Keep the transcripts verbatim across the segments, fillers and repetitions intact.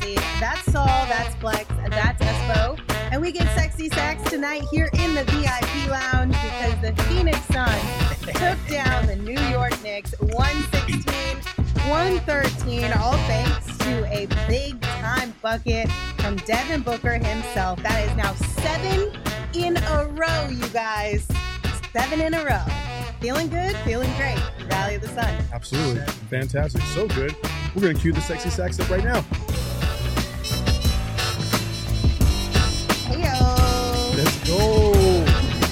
sexy. That's Saul, that's Flex, that's Espo. And we get sexy sacks tonight here in the V I P lounge because the Phoenix Suns took down the New York Knicks one sixteen, one thirteen, all thanks to a big-time bucket from Devin Booker himself. That is now seven in a row, you guys. Seven in a row. Feeling good, feeling great. Rally of the Sun. Absolutely. Fantastic. So good. We're going to cue the sexy sacks up right now. Heyo. Let's go.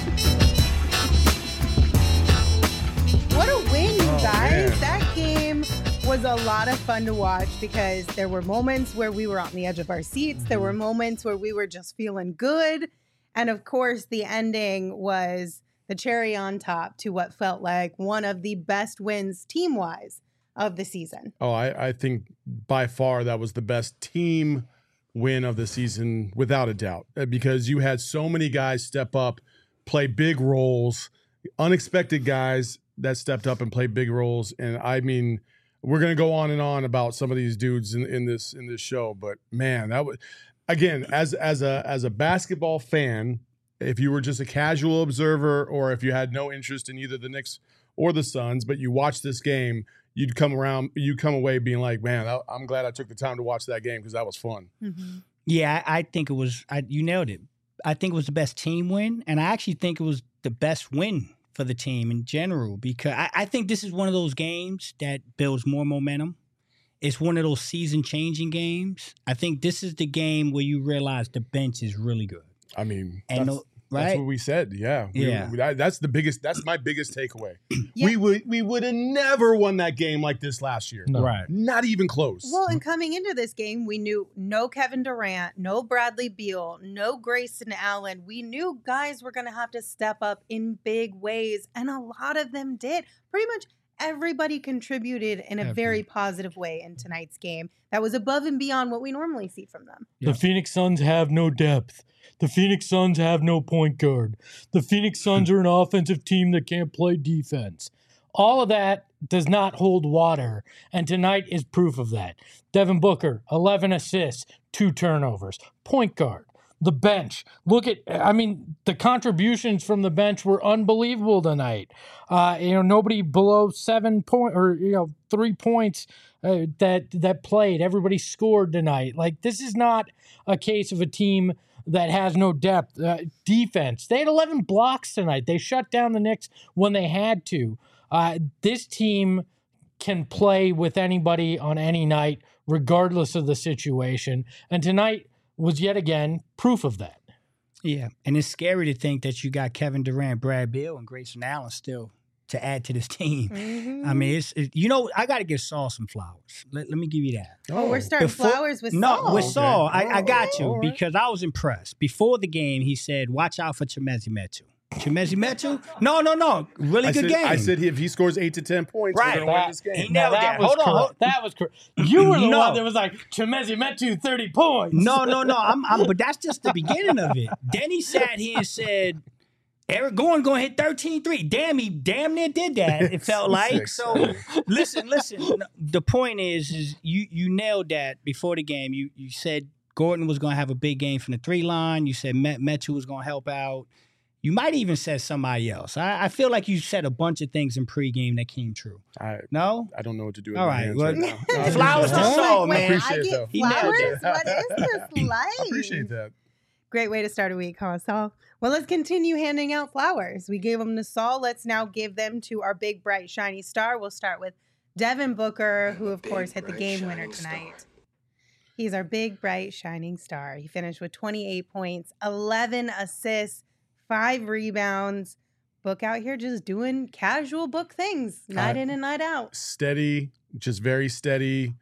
What a win, you Oh, guys. man. That game was a lot of fun to watch because there were moments where we were on the edge of our seats. There were moments where we were just feeling good. And of course, the ending was the cherry on top to what felt like one of the best wins team-wise of the season. Oh, I, I think by far that was the best team win of the season, without a doubt, because you had so many guys step up, play big roles, unexpected guys that stepped up and played big roles. And I mean, we're going to go on and on about some of these dudes in, in this in this show, but man, that was, again, as as a as a basketball fan, if you were just a casual observer or if you had no interest in either the Knicks or the Suns, but you watched this game, you'd come around, you'd come away being like, man, I, I'm glad I took the time to watch that game because that was fun. Mm-hmm. Yeah, I, I think it was, I, you nailed it. I think it was the best team win, and I actually think it was the best win for the team in general because I, I think this is one of those games that builds more momentum. It's one of those season-changing games. I think this is the game where you realize the bench is really good. I mean, And that's, no- right? that's what we said. Yeah. We- Yeah. we- that- that's the biggest, that's my biggest takeaway. Yeah. We would we would have never won that game like this last year. No. Right. Not even close. Well, and coming into this game, we knew no Kevin Durant, no Bradley Beal, no Grayson Allen. We knew guys were going to have to step up in big ways, and a lot of them did. Pretty much everybody contributed in a Every- very positive way in tonight's game. That was above and beyond what we normally see from them. The Phoenix Suns have no depth. The Phoenix Suns have no point guard. The Phoenix Suns are an offensive team that can't play defense. All of that does not hold water, and tonight is proof of that. Devin Booker, eleven assists, two turnovers. Point guard, the bench. Look at, I mean, the contributions from the bench were unbelievable tonight. Uh, you know, nobody below seven point or you know three points uh, that that played. Everybody scored tonight. Like, this is not a case of a team that has no depth. Uh, defense. They had eleven blocks tonight. They shut down the Knicks when they had to. Uh, this team can play with anybody on any night, regardless of the situation. And tonight was yet again proof of that. Yeah, and it's scary to think that you got Kevin Durant, Brad Beal, and Grayson Allen still to add to this team. Mm-hmm. I mean, it's it, you know, I got to give Saul some flowers. Let, let me give you that. Oh, we're starting Before- flowers with No, Saul. with Saul, I, I got Oh, you all right. because I was impressed. Before the game, he said, "Watch out for Chimezi Metu." Chimezi Metu? No, no, no. Really I good said, game. I said if he scores eight to ten points, Right. we're going to win this He game. nailed Now, that. was Hold on, correct. hold- That was correct. You were the No. one that was like, Chimezi Metu, thirty points. No, no, no. I'm, I'm, but that's just the beginning of it. Then he sat here and said, Eric Gordon going to hit thirteen three. Damn, he damn near did that, it felt like. Six. So, listen, listen. The point is, is you you nailed that before the game. You you said Gordon was going to have a big game from the three line. You said Met, Metu was going to help out. You might even said somebody else. I, I feel like you said a bunch of things in pregame that came true. I, No? I don't know what to do with All my right, hands well, right now. No, I flowers appreciate to that. Saul, Wait, man. I Appreciate get that. He nailed flowers? it. What is this like? I appreciate that. Great way to start a week, huh, Saul? Well, let's continue handing out flowers. We gave them to Saul. Let's now give them to our big, bright, shiny star. We'll start with Devin Booker, who, of course, hit the game winner tonight. He's our big, bright, shining star. He finished with twenty-eight points, eleven assists, five rebounds. Book out here just doing casual book things, night Uh, in and night out. Steady, just very steady.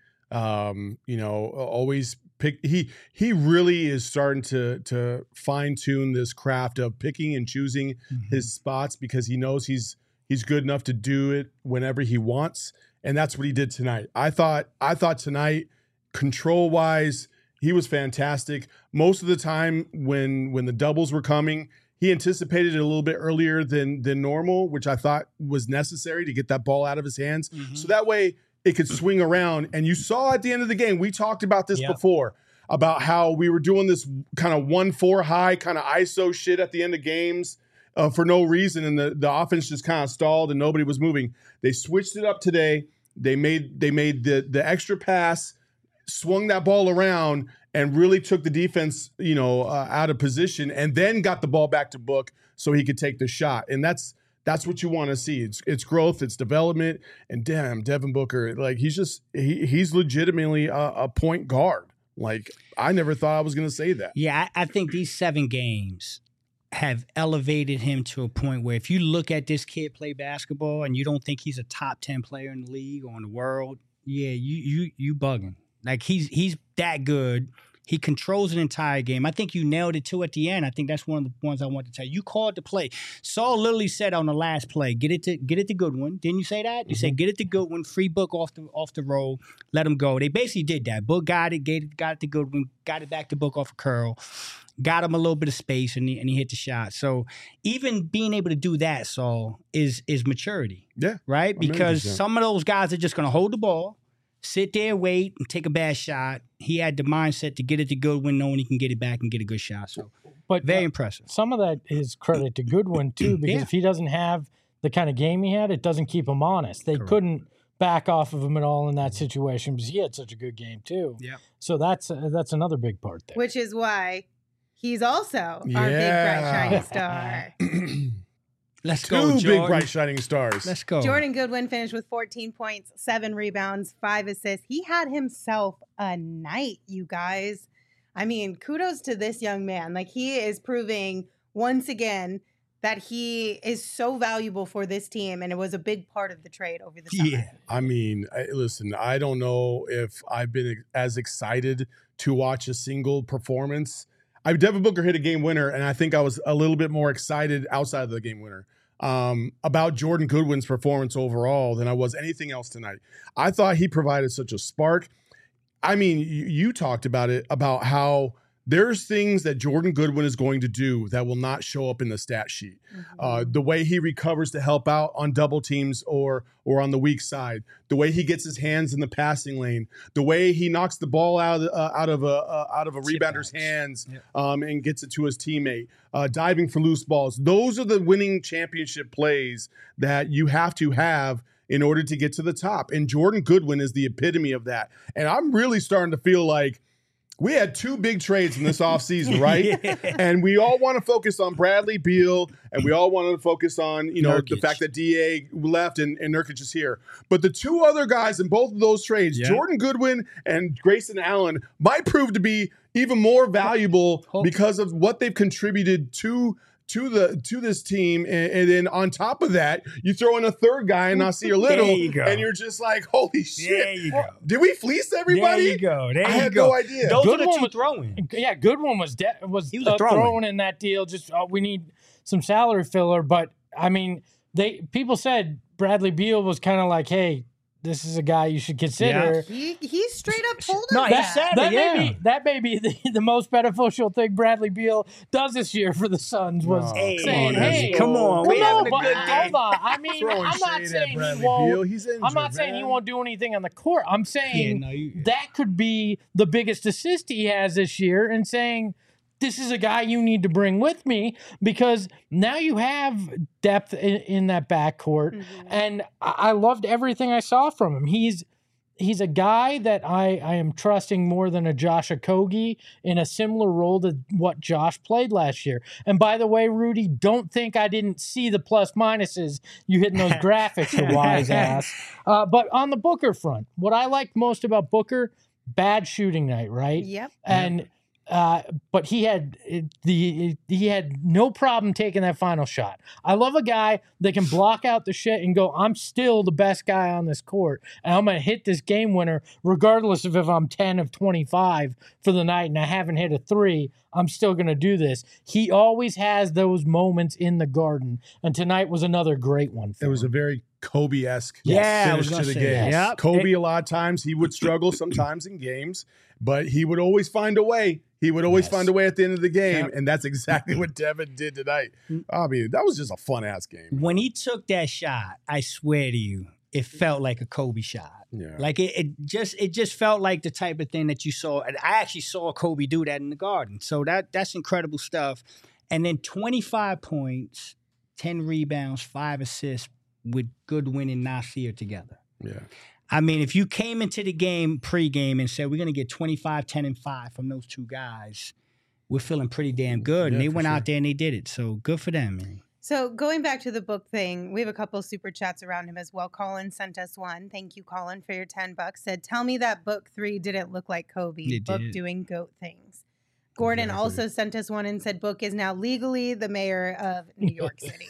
Um, you know, always pick. He he really is starting to to fine tune this craft of picking and choosing Mm-hmm. his spots because he knows he's he's good enough to do it whenever he wants, and that's what he did tonight. I thought I thought tonight, control wise, he was fantastic. Most of the time when when the doubles were coming, he anticipated it a little bit earlier than than normal, which I thought was necessary to get that ball out of his hands. Mhm. So that way it could swing around. And you saw at the end of the game, we talked about this Yep. before, about how we were doing this kind of one four high kind of I S O shit at the end of games uh, for no reason. And the, the offense just kind of stalled and nobody was moving. They switched it up today. They made they made the the extra pass, swung that ball around, and really took the defense, you know, uh, out of position, and then got the ball back to Book so he could take the shot. And that's that's what you want to see. It's it's growth, it's development, and damn, Devin Booker, like he's just he he's legitimately a, a point guard. Like I never thought I was going to say that. Yeah, I, I think these seven games have elevated him to a point where if you look at this kid play basketball and you don't think he's a top ten player in the league or in the world, yeah, you you you bugging. Like he's he's that good. He controls an entire game. I think you nailed it too at the end. I think that's one of the ones I want to tell you. You called the play. Saul literally said on the last play, get it to get it to Goodwin. Didn't you say that? You mm-hmm. said get it to Goodwin, free Book off the off the roll, let him go. They basically did that. Book got it, gave it, got it to Goodwin, got it back to Book off a curl, got him a little bit of space, and he, and he hit the shot. So even being able to do that, Saul, is is maturity. Yeah. Right? Because one hundred percent. Some of those guys are just going to hold the ball, sit there, wait, and take a bad shot. He had the mindset to get it to Goodwin, knowing he can get it back and get a good shot. So, but very uh, impressive. Some of that is credit to Goodwin, too, because yeah. if he doesn't have the kind of game he had, it doesn't keep him honest. They Correct. couldn't back off of him at all in that situation because he had such a good game, too. Yeah. So that's uh, that's another big part there. Which is why he's also Yeah. our big, bright, shiny star. Let's Two go, big, Jordan. bright, shining stars. Let's go. Jordan Goodwin finished with fourteen points, seven rebounds, five assists. He had himself a night, you guys. I mean, kudos to this young man. Like, he is proving once again that he is so valuable for this team, and it was a big part of the trade over the summer. Yeah. I mean, I, listen, I don't know if I've been as excited to watch a single performance. I Devin Booker hit a game winner, and I think I was a little bit more excited outside of the game winner um, about Jordan Goodwin's performance overall than I was anything else tonight. I thought he provided such a spark. I mean, you, you talked about it, about how there's things that Jordan Goodwin is going to do that will not show up in the stat sheet. Mm-hmm. Uh, the way he recovers to help out on double teams or or on the weak side, the way he gets his hands in the passing lane, the way he knocks the ball out of, uh, out of a uh, out of a rebounder's hands yep. um, and gets it to his teammate, uh, diving for loose balls. Those are the winning championship plays that you have to have in order to get to the top. And Jordan Goodwin is the epitome of that. And I'm really starting to feel like we had two big trades in this offseason, right? yeah. And we all want to focus on Bradley Beal, and we all want to focus on, you know, Nurkic. The fact that D A left and, and Nurkic is here. But the two other guys in both of those trades, yeah. Jordan Goodwin and Grayson Allen, might prove to be even more valuable Hope. because of what they've contributed to to the to this team. And, and then on top of that, you throw in a third guy and Nasir Little, you and you're just like, holy shit. There you go. Did we fleece everybody? There you go. There I you had go. no idea. Those Good are the two was, throwing. Yeah, Goodwin was de- was, he was uh, throwing. throwing in that deal. Just uh, we need some salary filler. But I mean, they people said Bradley Beal was kind of like, hey, this is a guy you should consider. Yeah. He he straight up told us no, that. He said that it, yeah. may be that may be the, the most beneficial thing Bradley Beal does this year for the Suns was no, hey, saying, come on, "Hey, come on, come we on, having a but good day." hold on. I mean, Throwing I'm not shade saying at Bradley he won't. Beal. He's injured, I'm not saying man. he won't do anything on the court. I'm saying Yeah, no, you- that could be the biggest assist he has this year, and saying, this is a guy you need to bring with me, because now you have depth in, in that backcourt. Mm-hmm. And I, I loved everything I saw from him. He's he's a guy that I, I am trusting more than a Josh Okogie in a similar role to what Josh played last year. And by the way, Rudy, don't think I didn't see the plus minuses you hitting those graphics, you wise ass. Uh, but on the Booker front, what I liked most about Booker, bad shooting night, right? Yep. And yep. Uh, but he had the he had no problem taking that final shot. I love a guy that can block out the shit and go, I'm still the best guy on this court, and I'm gonna hit this game winner regardless of if I'm ten of twenty-five for the night and I haven't hit a three. I'm still gonna do this. He always has those moments in the Garden, and tonight was another great one. For it was him. a very Kobe-esque yeah, finish to the game. Yes. Yep. Kobe, It, a lot of times, he would struggle sometimes in games, but he would always find a way. He would always Yes. find a way at the end of the game, Yep. and that's exactly what Devin did tonight. I mean, that was just a fun-ass game. when he took that shot, I swear to you, it felt like a Kobe shot. Yeah. Like it, it just it just felt like the type of thing that you saw. And I actually saw Kobe do that in the Garden. So that that's incredible stuff. And then twenty-five points, ten rebounds, five assists with Goodwin and Nasir together. Yeah. I mean, if you came into the game pregame and said we're going to get twenty-five, ten, and five from those two guys, we're feeling pretty damn good. Yeah, and they went sure. out there and they did it. So good for them, man. So going back to the book thing, we have a couple super chats around him as well. Colin sent us one. Thank you, Colin, for your ten bucks. Said, tell me that book three didn't look like Kobe. It Book did. doing GOAT things. Gordon Exactly. also sent us one and said, Book is now legally the mayor of New York City.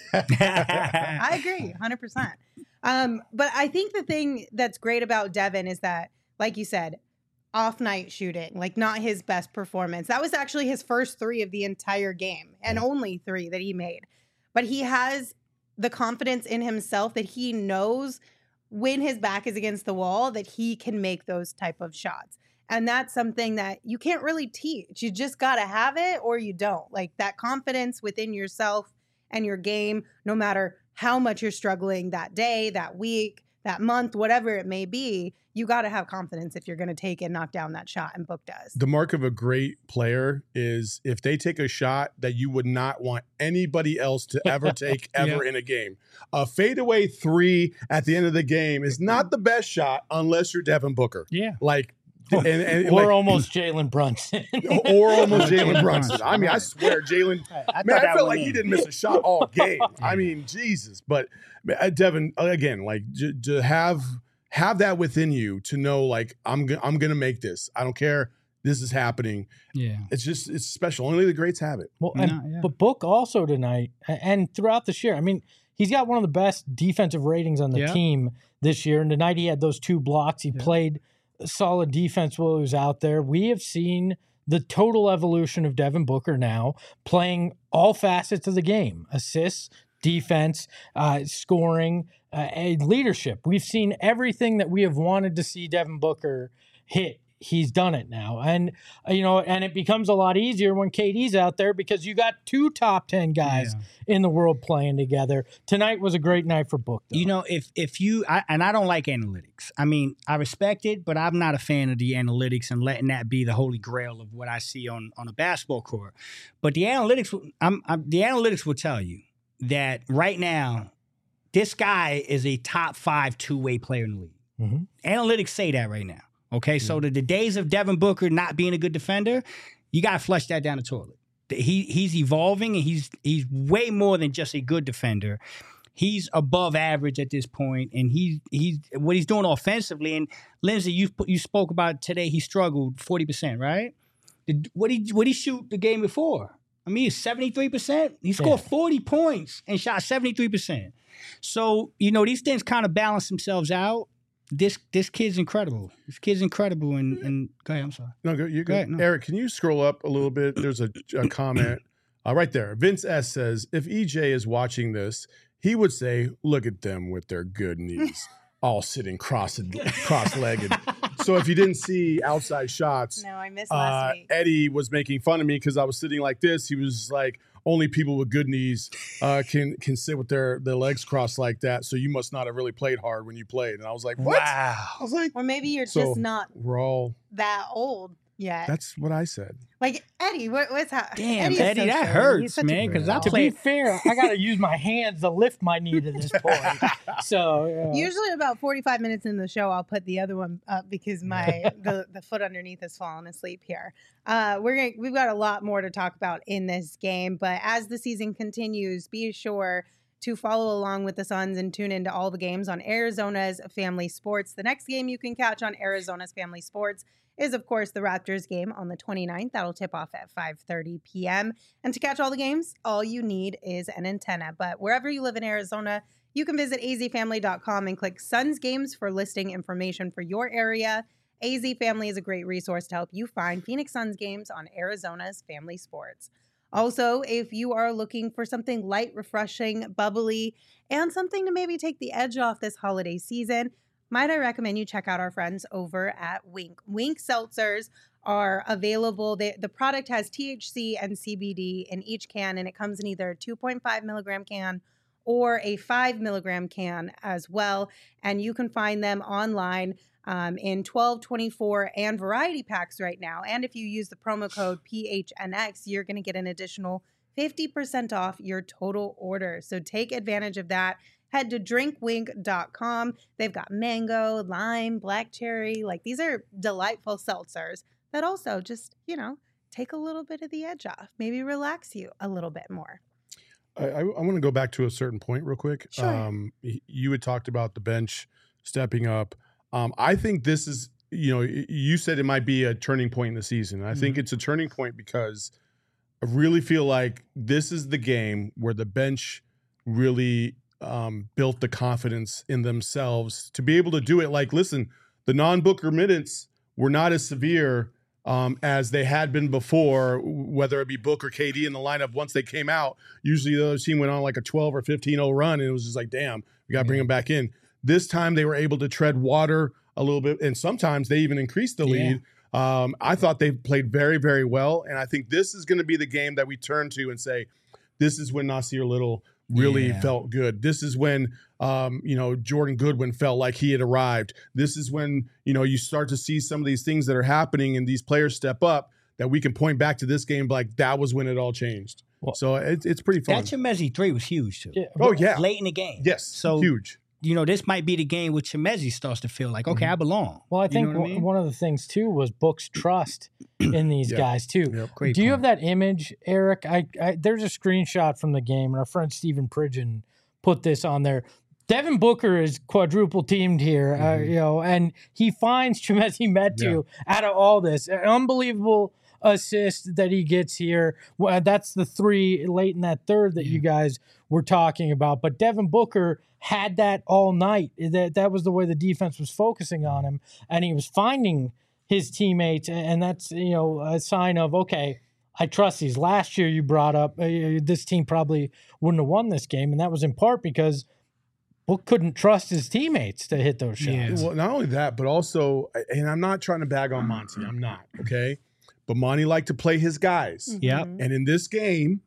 I agree, one hundred percent. Um, but I think the thing that's great about Devin is that, like you said, off night shooting, like not his best performance. That was actually his first three of the entire game and only three that he made. But he has the confidence in himself that he knows when his back is against the wall that he can make those type of shots. And that's something that you can't really teach. You just got to have it or you don't. Like that confidence within yourself and your game, no matter how much you're struggling that day, that week, that month, whatever it may be, you got to have confidence if you're going to take and knock down that shot, and Book does. The mark of a great player is if they take a shot that you would not want anybody else to ever take ever Yeah. in a game. A fadeaway three at the end of the game is not the best shot unless you're Devin Booker. Yeah. Like, and, and Or like, almost Jalen Brunson. or almost Jalen Jalen Brunson. Brunson. I mean, I swear, Jalen. I, Man, thought I that felt one like he in. didn't miss a shot all game. I mean, Jesus. But uh, Devin, again, like j- to have have that within you to know, like I'm go- I'm gonna make this. I don't care. This is happening. Yeah. It's just it's special. Only the greats have it. Well, and, No, yeah. but Book also tonight a- and throughout this year. I mean, he's got one of the best defensive ratings on the Yeah. team this year. And tonight he had those two blocks. He Yeah. played solid defense while he was out there. We have seen the total evolution of Devin Booker now playing all facets of the game: assists, defense, uh, scoring, uh, and leadership. We've seen everything that we have wanted to see Devin Booker hit. He's done it now. And, uh, you know, and it becomes a lot easier when K D's out there because you got two top ten guys in the world playing together. Tonight was a great night for Book, though. You know, if if you I, and I don't like analytics. I mean, I respect it, but I'm not a fan of the analytics and letting that be the holy grail of what I see on on a basketball court. But the analytics, I'm, I'm the analytics will tell you that right now, this guy is a top five two way player in the league. Mhm. Analytics say that right now. Okay, so the, the days of Devin Booker not being a good defender, you got to flush that down the toilet. He he's evolving, and he's he's way more than just a good defender. He's above average at this point, and he he's what he's doing offensively. And Lindsay, you you spoke about today. He struggled forty percent, right? Did, what he what he shoot the game before? I mean, seventy three percent. He scored Yeah. forty points and shot seventy three percent. So you know these things kind of balance themselves out. This this kid's incredible. This kid's incredible. And, and go ahead. I'm sorry. No, go, you're Go good. ahead, no. Eric, can you scroll up a little bit? There's a, a comment uh, right there. Vince S says, if E J is watching this, he would say, look at them with their good knees, all sitting cross cross-legged. So if you didn't see outside shots, No, I missed last uh, week. Eddie was making fun of me because I was sitting like this. He was like, only people with good knees uh, can can sit with their, their legs crossed like that. So you must not have really played hard when you played. And I was like, what? I was like, Or maybe you're So- just not we're all, that old yet. that's what I said. Like, Eddie, what, what's happening? Damn, is Eddie, so that short. He's hurts, such a man. good Because I dog. To be played. fair, I got to use my hands to lift my knee to this point. So, yeah. Usually about forty-five minutes in the show, I'll put the other one up because my the, the foot underneath has fallen asleep here. Uh, we're gonna, we've got a lot more to talk about in this game, but as the season continues, be sure to follow along with the Suns and tune into all the games on Arizona's Family Sports. The next game you can catch on Arizona's Family Sports is, of course, the Raptors game on the twenty-ninth. That'll tip off at five thirty p.m. And to catch all the games, all you need is an antenna. But wherever you live in Arizona, you can visit a z family dot com and click Suns Games for listing information for your area. A Z Family is a great resource to help you find Phoenix Suns games on Arizona's Family Sports. Also, if you are looking for something light, refreshing, bubbly, and something to maybe take the edge off this holiday season, might I recommend you check out our friends over at Wink. Wink seltzers are available. They, the product has T H C and C B D in each can, and it comes in either a two point five milligram can or a five milligram can as well. And you can find them online um, in twelve, twenty-four, and variety packs right now. And if you use the promo code P H N X, you're going to get an additional fifty percent off your total order. So take advantage of that. Head to drink wink dot com. They've got mango, lime, black cherry. Like, these are delightful seltzers that also just, you know, take a little bit of the edge off, maybe relax you a little bit more. I, I, I want to go back to a certain point real quick. Sure. Um, y- you had talked about the bench stepping up. Um, I think this is, you know, y- you said it might be a turning point in the season. I think it's a turning point because I really feel like this is the game where the bench really um, built the confidence in themselves to be able to do it. Like, listen, the non-Booker minutes were not as severe um, as they had been before, whether it be Book or K D in the lineup. Once they came out, usually the other team went on like a twelve or fifteen oh run, and it was just like, damn, we got to bring them back in. This time they were able to tread water a little bit, and sometimes they even increased the lead. Yeah. Um, I thought they played very, very well, and I think this is going to be the game that we turn to and say, this is when Nasir Little really Yeah. felt good. This is when, um, you know, Jordan Goodwin felt like he had arrived. This is when, you know, you start to see some of these things that are happening and these players step up that we can point back to this game like that was when it all changed. Well, so it's it's pretty fun. That Chemezi three was huge too. Yeah. Oh, yeah. Late in the game. Yes. So huge. you know, this might be the game where Chemezi starts to feel like, okay, Mhm. I belong. Well, I You think know what I w- mean? one of the things too was Book's trust in these Yep. guys too. Yep. Great Do you point. have that image, Eric? I, I there's a screenshot from the game, and our friend Stephen Pridgeon put this on there. Devin Booker is quadruple teamed here, uh, Mhm. you know, and he finds Chemezi Metu out of all this. An unbelievable assist that he gets here. Well, that's the three late in that third that you guys were talking about. But Devin Booker had that all night. That that was the way the defense was focusing on him, and he was finding his teammates, and that's, you know, a sign of, okay, I trust these. Last year you brought up uh, this team probably wouldn't have won this game, and that was in part because Book couldn't trust his teammates to hit those shots. Yeah. Well, not only that, but also, and I'm not trying to bag on Monty. I'm not, okay? But Monty liked to play his guys. Yep. Mhm. And in this game,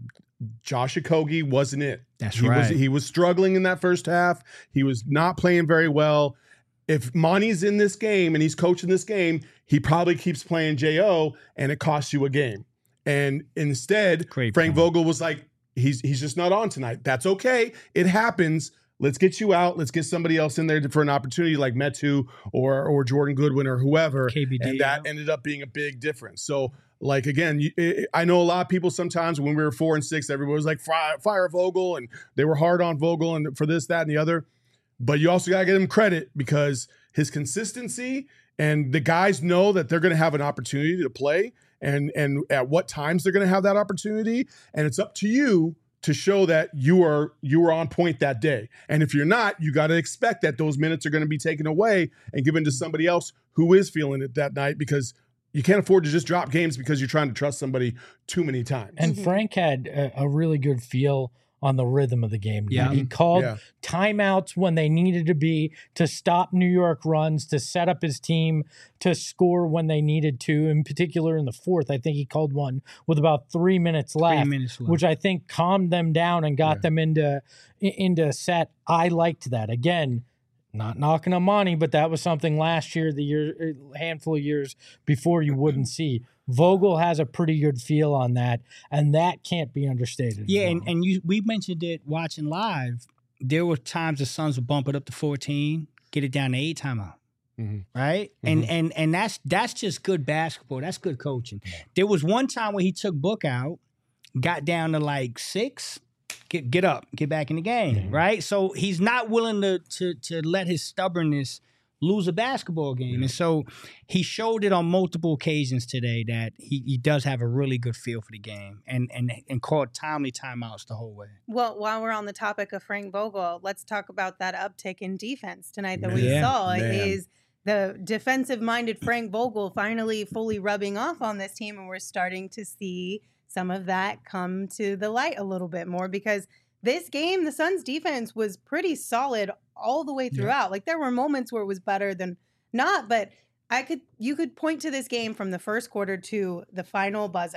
Josh Okogie wasn't it. That's he right. Was, he was struggling in that first half. He was not playing very well. If Monty's in this game and he's coaching this game, he probably keeps playing J O, and it costs you a game. And instead, Great Frank point. Vogel was like, he's he's just not on tonight. That's okay. It happens. Let's get you out. Let's get somebody else in there for an opportunity like Metu or or Jordan Goodwin or whoever. K B D, and that yeah. ended up being a big difference. So, like, again, you, it, I know a lot of people sometimes when we were four and six, everybody was like, fire, fire Vogel, and they were hard on Vogel and for this, that, and the other. But you also got to give him credit because his consistency and the guys know that they're going to have an opportunity to play and and at what times they're going to have that opportunity. And it's up to you to show that you are you are on point that day. And if you're not, you got to expect that those minutes are going to be taken away and given to somebody else who is feeling it that night, because you can't afford to just drop games because you're trying to trust somebody too many times. And Mhm. Frank had a, a really good feel on the rhythm of the game. Yeah. He called Yeah. timeouts when they needed to be to stop New York runs, to set up his team to score when they needed to. In particular, in the fourth, I think he called one with about three minutes left, Three minutes left. which I think calmed them down and got Yeah. them into i- into set. I liked that. Again, not knocking on Monty, but that was something last year, the year, a handful of years before, you wouldn't see. Vogel has a pretty good feel on that, and that can't be understated. as Yeah, and, well. and you we mentioned it watching live. There were times the Suns would bump it up to fourteen, get it down to eight timeout. Mhm. Right? And and and that's that's just good basketball. That's good coaching. There was one time where he took Book out, got down to like six, get get up, get back in the game. Mhm. Right? So he's not willing to to to let his stubbornness lose a basketball game. And so he showed it on multiple occasions today that he, he does have a really good feel for the game and and and called timely timeouts the whole way. Well, while we're on the topic of Frank Vogel, let's talk about that uptick in defense tonight that we Yeah, saw. man. Is the defensive-minded Frank Vogel finally fully rubbing off on this team, and we're starting to see some of that come to the light a little bit more, because this game, the Suns defense was pretty solid all the way throughout. Like, there were moments where it was better than not, but I could you could point to this game from the first quarter to the final buzzer,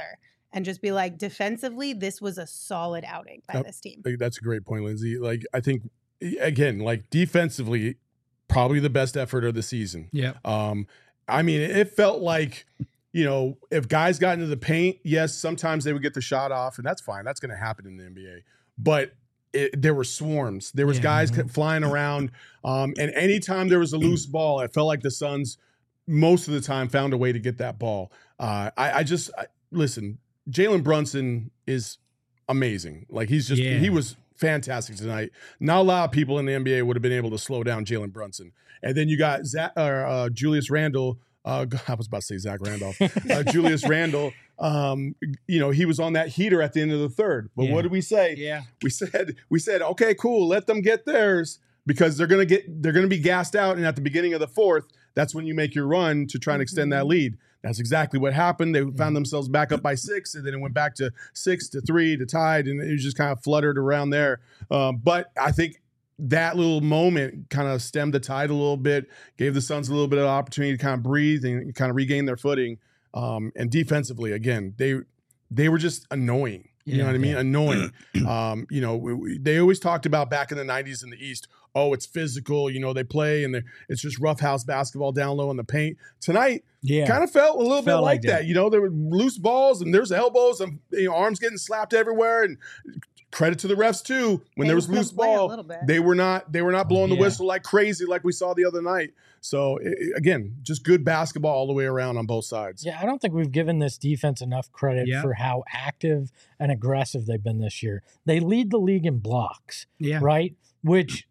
and just be like, defensively, this was a solid outing by Yep. this team. That's a great point, Lindsay. Like, I think, again, like defensively, probably the best effort of the season. Yeah. Um, I mean, it felt like, you know, if guys got into the paint, yes, sometimes they would get the shot off, and that's fine. That's going to happen in the N B A. But it, there were swarms. There was Yeah. guys Mm-hmm. flying around. Um, and anytime there was a loose ball, it felt like the Suns most of the time found a way to get that ball. Uh, I, I just, I, listen, Jalen Brunson is amazing. Like, he's just, Yeah. he was fantastic tonight. Not a lot of people in the N B A would have been able to slow down Jalen Brunson. And then you got Zach, or, uh, Julius Randle. Uh, I was about to say Zach Randolph. Uh, Julius Randle. Um, you know, he was on that heater at the end of the third. But Yeah. what did we say? Yeah. We said, we said, okay, cool, let them get theirs because they're gonna get, they're gonna be gassed out. And at the beginning of the fourth, that's when you make your run to try and extend that lead. That's exactly what happened. They found themselves back up by six, and then it went back to six to three to tied, and it was just kind of fluttered around there. Um, but I think that little moment kind of stemmed the tide a little bit, gave the Suns a little bit of opportunity to kind of breathe and kind of regain their footing. Um, and defensively, again, they they were just annoying. You know Yeah, what I mean? yeah. Annoying. Um, you know, we, we, they always talked about back in the nineties in the East, oh, it's physical. You know, they play and it's just roughhouse basketball down low in the paint. Tonight, Yeah. kind of felt a little bit Felt like like that. that. You know, there were loose balls and there's elbows and, you know, arms getting slapped everywhere. And credit to the refs too. When They there was could loose play a ball, little bit. they were not they were not blowing the Yeah. whistle like crazy like we saw the other night. So i- i- again, just good basketball all the way around on both sides. Yeah, I don't think we've given this defense enough credit Yeah. for how active and aggressive they've been this year. They lead the league in blocks, Yeah. right? Which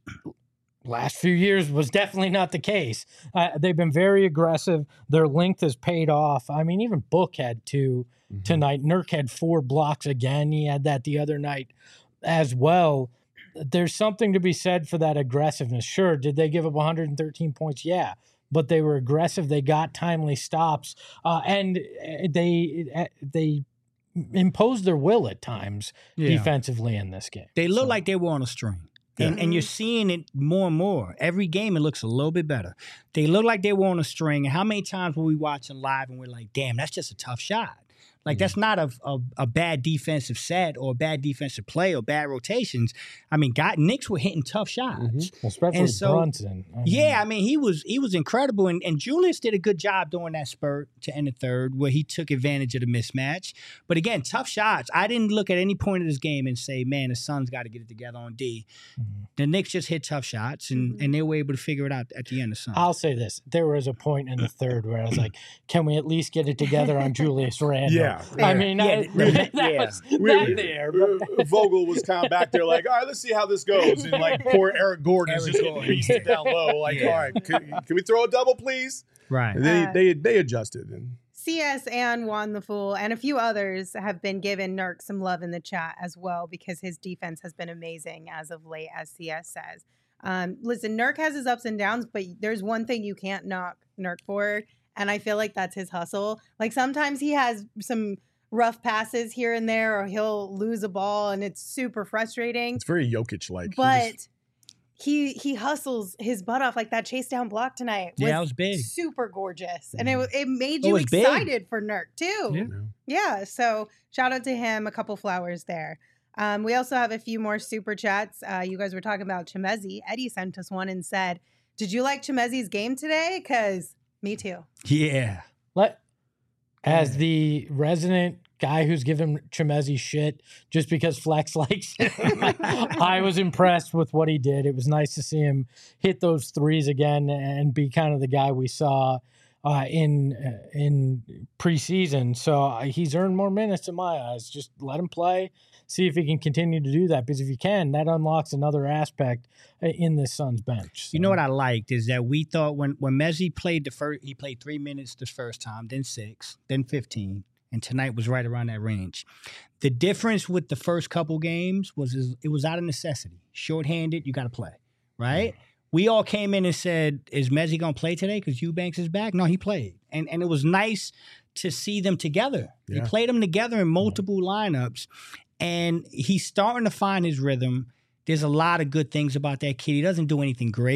last few years was definitely not the case. Uh, they've been very aggressive. Their length has paid off. I mean, even Book had two Mhm. tonight. Nurk had four blocks again. He had that the other night as well. There's something to be said for that aggressiveness. Sure, did they give up one hundred thirteen points? Yeah, but they were aggressive. They got timely stops, uh, and uh, they uh, they imposed their will at times Yeah. defensively in this game. They look So- like they were on a string. And, Yeah. and you're seeing it more and more. Every game, it looks a little bit better. They look like they were on a string. And how many times were we watching live and we're like, damn, that's just a tough shot? Like, that's not a, a, a bad defensive set or a bad defensive play or bad rotations. I mean, God, Knicks were hitting tough shots. Mhm. Especially And so- Brunson. I mean, Yeah, I mean, he was he was incredible, and, and Julius did a good job during that spurt to end the third, where he took advantage of the mismatch. But again, tough shots. I didn't look at any point of this game and say, "Man, the Suns got to get it together on D." Mhm. The Knicks just hit tough shots, and, Mhm. and they were able to figure it out at the end of Suns. I'll say this. There was a point in the third where I was like, can we at least get it together on Julius Randle? Yeah. I mean, Yeah, I- the- that yeah. was We- that there. but- Uh, Vogel was kind of back there like, all right, let's see how this goes. And like poor Eric Gordon is Eric just getting Gordon. beasted down low. Like, Yeah. all right, can, can we throw a double, please? right. And they, Uh, they, they adjusted. And C S and Juan the Fool and a few others have been giving Nurk some love in the chat as well because his defense has been amazing as of late, as C S says. Um, listen, Nurk has his ups and downs, but there's one thing you can't knock Nurk for, and I feel like that's his hustle. Like sometimes he has some rough passes here and there, or he'll lose a ball, and it's super frustrating. it's very Jokic like. But he he hustles his butt off. Like that chase down block tonight was, Yeah, that was big. super gorgeous, and it wa- it made It you was big. excited for Nurk too. Yeah. Yeah, so shout out to him. A couple flowers there. Um, we also have a few more super chats. Uh, you guys were talking about Chimezi. Eddie sent us one and said, "Did you like Chimezi's game today? Because me too." Yeah. Let as the resident guy who's given Chimezi shit just because Flex likes him, I was impressed with what he did. It was nice to see him hit those threes again and be kind of the guy we saw uh, in uh, in preseason. So uh, he's earned more minutes in my eyes. Just let him play, see if he can continue to do that. Because if he can, that unlocks another aspect uh, in this Suns bench. You know So- what I liked is that we thought when when Messi played the first, he played three minutes the first time, then six, then fifteen, and tonight was right around that range. The difference with the first couple games was is it was out of necessity. Shorthanded, you got to play, right? We all came in and said, "Is Messi gonna play today? Because Eubanks is back." No, he played, and and it was nice to see them together. He Yeah. played them together in multiple lineups, and he's starting to find his rhythm. There's a lot of good things about that kid. He doesn't do anything great,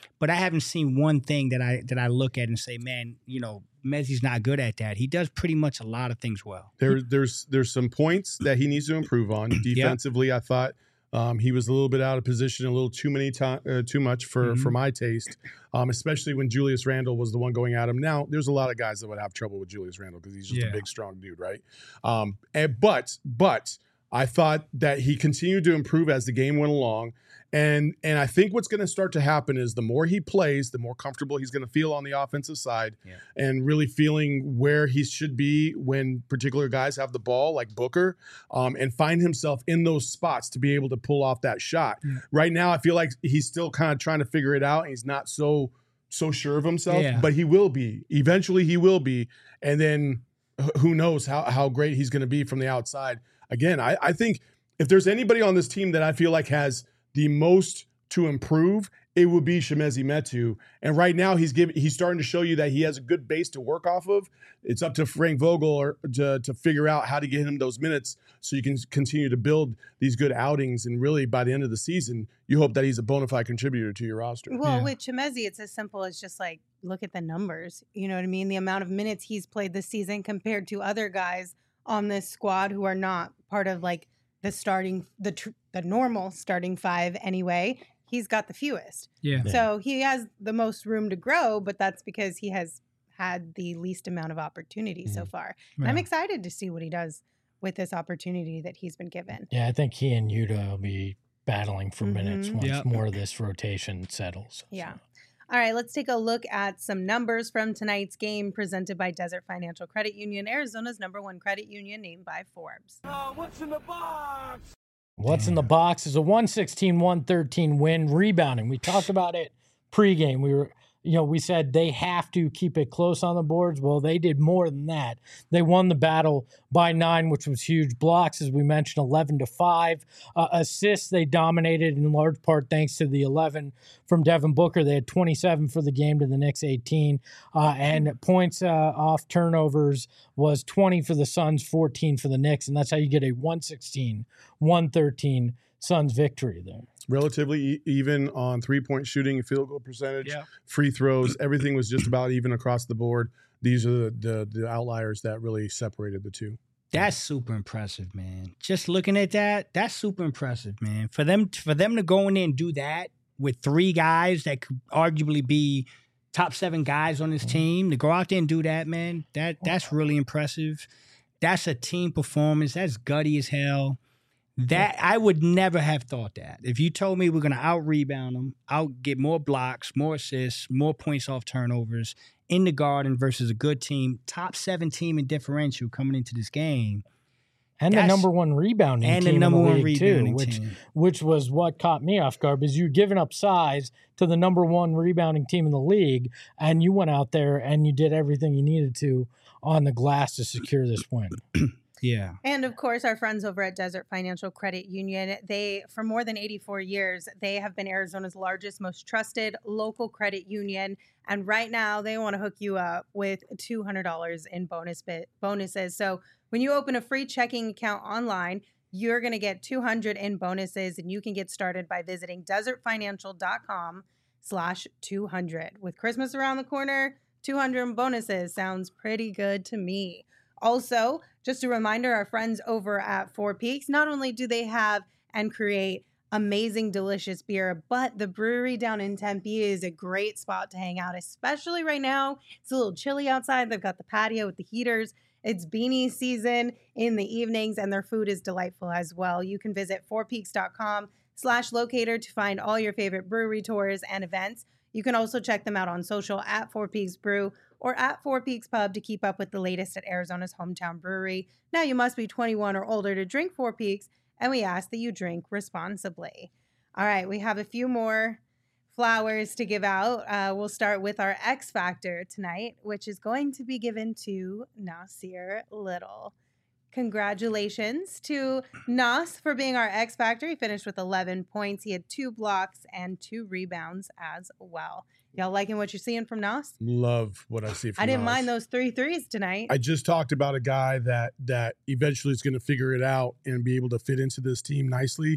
But I haven't seen one thing that I that I look at and say, man, you know, Mezzi's not good at that. He does pretty much a lot of things well. There, there's there's some points that he needs to improve on. Defensively, yep. I thought um, he was a little bit out of position, a little too many time, uh, too much for, mm-hmm. for my taste, um, especially when Julius Randle was the one going at him. Now, there's a lot of guys that would have trouble with Julius Randle because he's just yeah. a big, strong dude, right? Um, and, but, but I thought that he continued to improve as the game went along. And and I think what's going to start to happen is the more he plays, the more comfortable he's going to feel on the offensive side yeah. and really feeling where he should be when particular guys have the ball, like Booker, um, and find himself in those spots to be able to pull off that shot. Yeah. Right now, I feel like he's still kind of trying to figure it out. And he's not so so sure of himself, yeah. but he will be. Eventually, he will be. And then who knows how, how great he's going to be from the outside. Again, I, I think if there's anybody on this team that I feel like has the most to improve, it would be Chimezie Metu. And right now he's giving he's starting to show you that he has a good base to work off of. It's up to Frank Vogel or to, to figure out how to get him those minutes so you can continue to build these good outings. And really by the end of the season, you hope that he's a bona fide contributor to your roster. Well, yeah. with Chimezie, it's as simple as just like, look at the numbers. You know what I mean? The amount of minutes he's played this season compared to other guys on this squad who are not part of like the starting, the tr- the normal starting five anyway. He's got the fewest. Yeah. So he has the most room to grow, but that's because he has had the least amount of opportunity mm-hmm. so far. And yeah. I'm excited to see what he does with this opportunity that he's been given. Yeah, I think he and Yuta will be battling for mm-hmm. minutes once yep. more of this rotation settles. Yeah. So. All right, let's take a look at some numbers from tonight's game presented by Desert Financial Credit Union, Arizona's number one credit union named by Forbes. Uh, what's in the box? What's in the box is a one sixteen one thirteen win, rebounding. We talked about it pregame. We were, you know, we said they have to keep it close on the boards. Well, they did more than that. They won the battle by nine, which was huge. Blocks, as we mentioned, eleven to five. Uh, assists, they dominated in large part thanks to the eleven from Devin Booker. They had twenty-seven for the game to the Knicks eighteen. Uh, and points uh, off turnovers was twenty for the Suns, fourteen for the Knicks. And that's how you get a one sixteen one thirteen Suns victory there. Relatively e- even on three-point shooting, field goal percentage, yeah. free throws. Everything was just about even across the board. These are the, the the outliers that really separated the two. That's super impressive, man. Just looking at that, that's super impressive, man. For them, for them to go in there and do that with three guys that could arguably be top seven guys on this team, to go out there and do that, man, that that's really impressive. That's a team performance. That's gutty as hell. That I would never have thought that. If you told me we're going to out-rebound them, out get more blocks, more assists, more points off turnovers in the Garden versus a good team, top seven team in differential coming into this game. And the number one rebounding and team the number in the one league rebounding too, which, team. which was what caught me off guard, because you're giving up size to the number one rebounding team in the league, and you went out there and you did everything you needed to on the glass to secure this win. Yeah. And of course, our friends over at Desert Financial Credit Union, they, for more than eighty-four years, they have been Arizona's largest, most trusted local credit union. And right now they want to hook you up with two hundred dollars in bonus bit bonuses. So when you open a free checking account online, you're going to get two hundred in bonuses, and you can get started by visiting desertfinancial.com slash 200. With Christmas around the corner, two hundred in bonuses sounds pretty good to me. Also, just a reminder, our friends over at Four Peaks, not only do they have and create amazing, delicious beer, but the brewery down in Tempe is a great spot to hang out, especially right now. It's a little chilly outside. They've got the patio with the heaters. It's beanie season in the evenings, and their food is delightful as well. You can visit fourpeaks.com slash locator to find all your favorite brewery tours and events. You can also check them out on social at Four Peaks Brew or at Four Peaks Pub to keep up with the latest at Arizona's hometown brewery. Now, you must be twenty-one or older to drink Four Peaks, and we ask that you drink responsibly. All right, we have a few more flowers to give out. Uh, we'll start with our X Factor tonight, which is going to be given to Nasir Little. Congratulations to Nas for being our X Factor. He finished with eleven points. He had two blocks and two rebounds as well. Y'all liking what you're seeing from Nas? Love what I see from I didn't Nas. mind those three threes tonight. I just talked about a guy that that eventually is going to figure it out and be able to fit into this team nicely.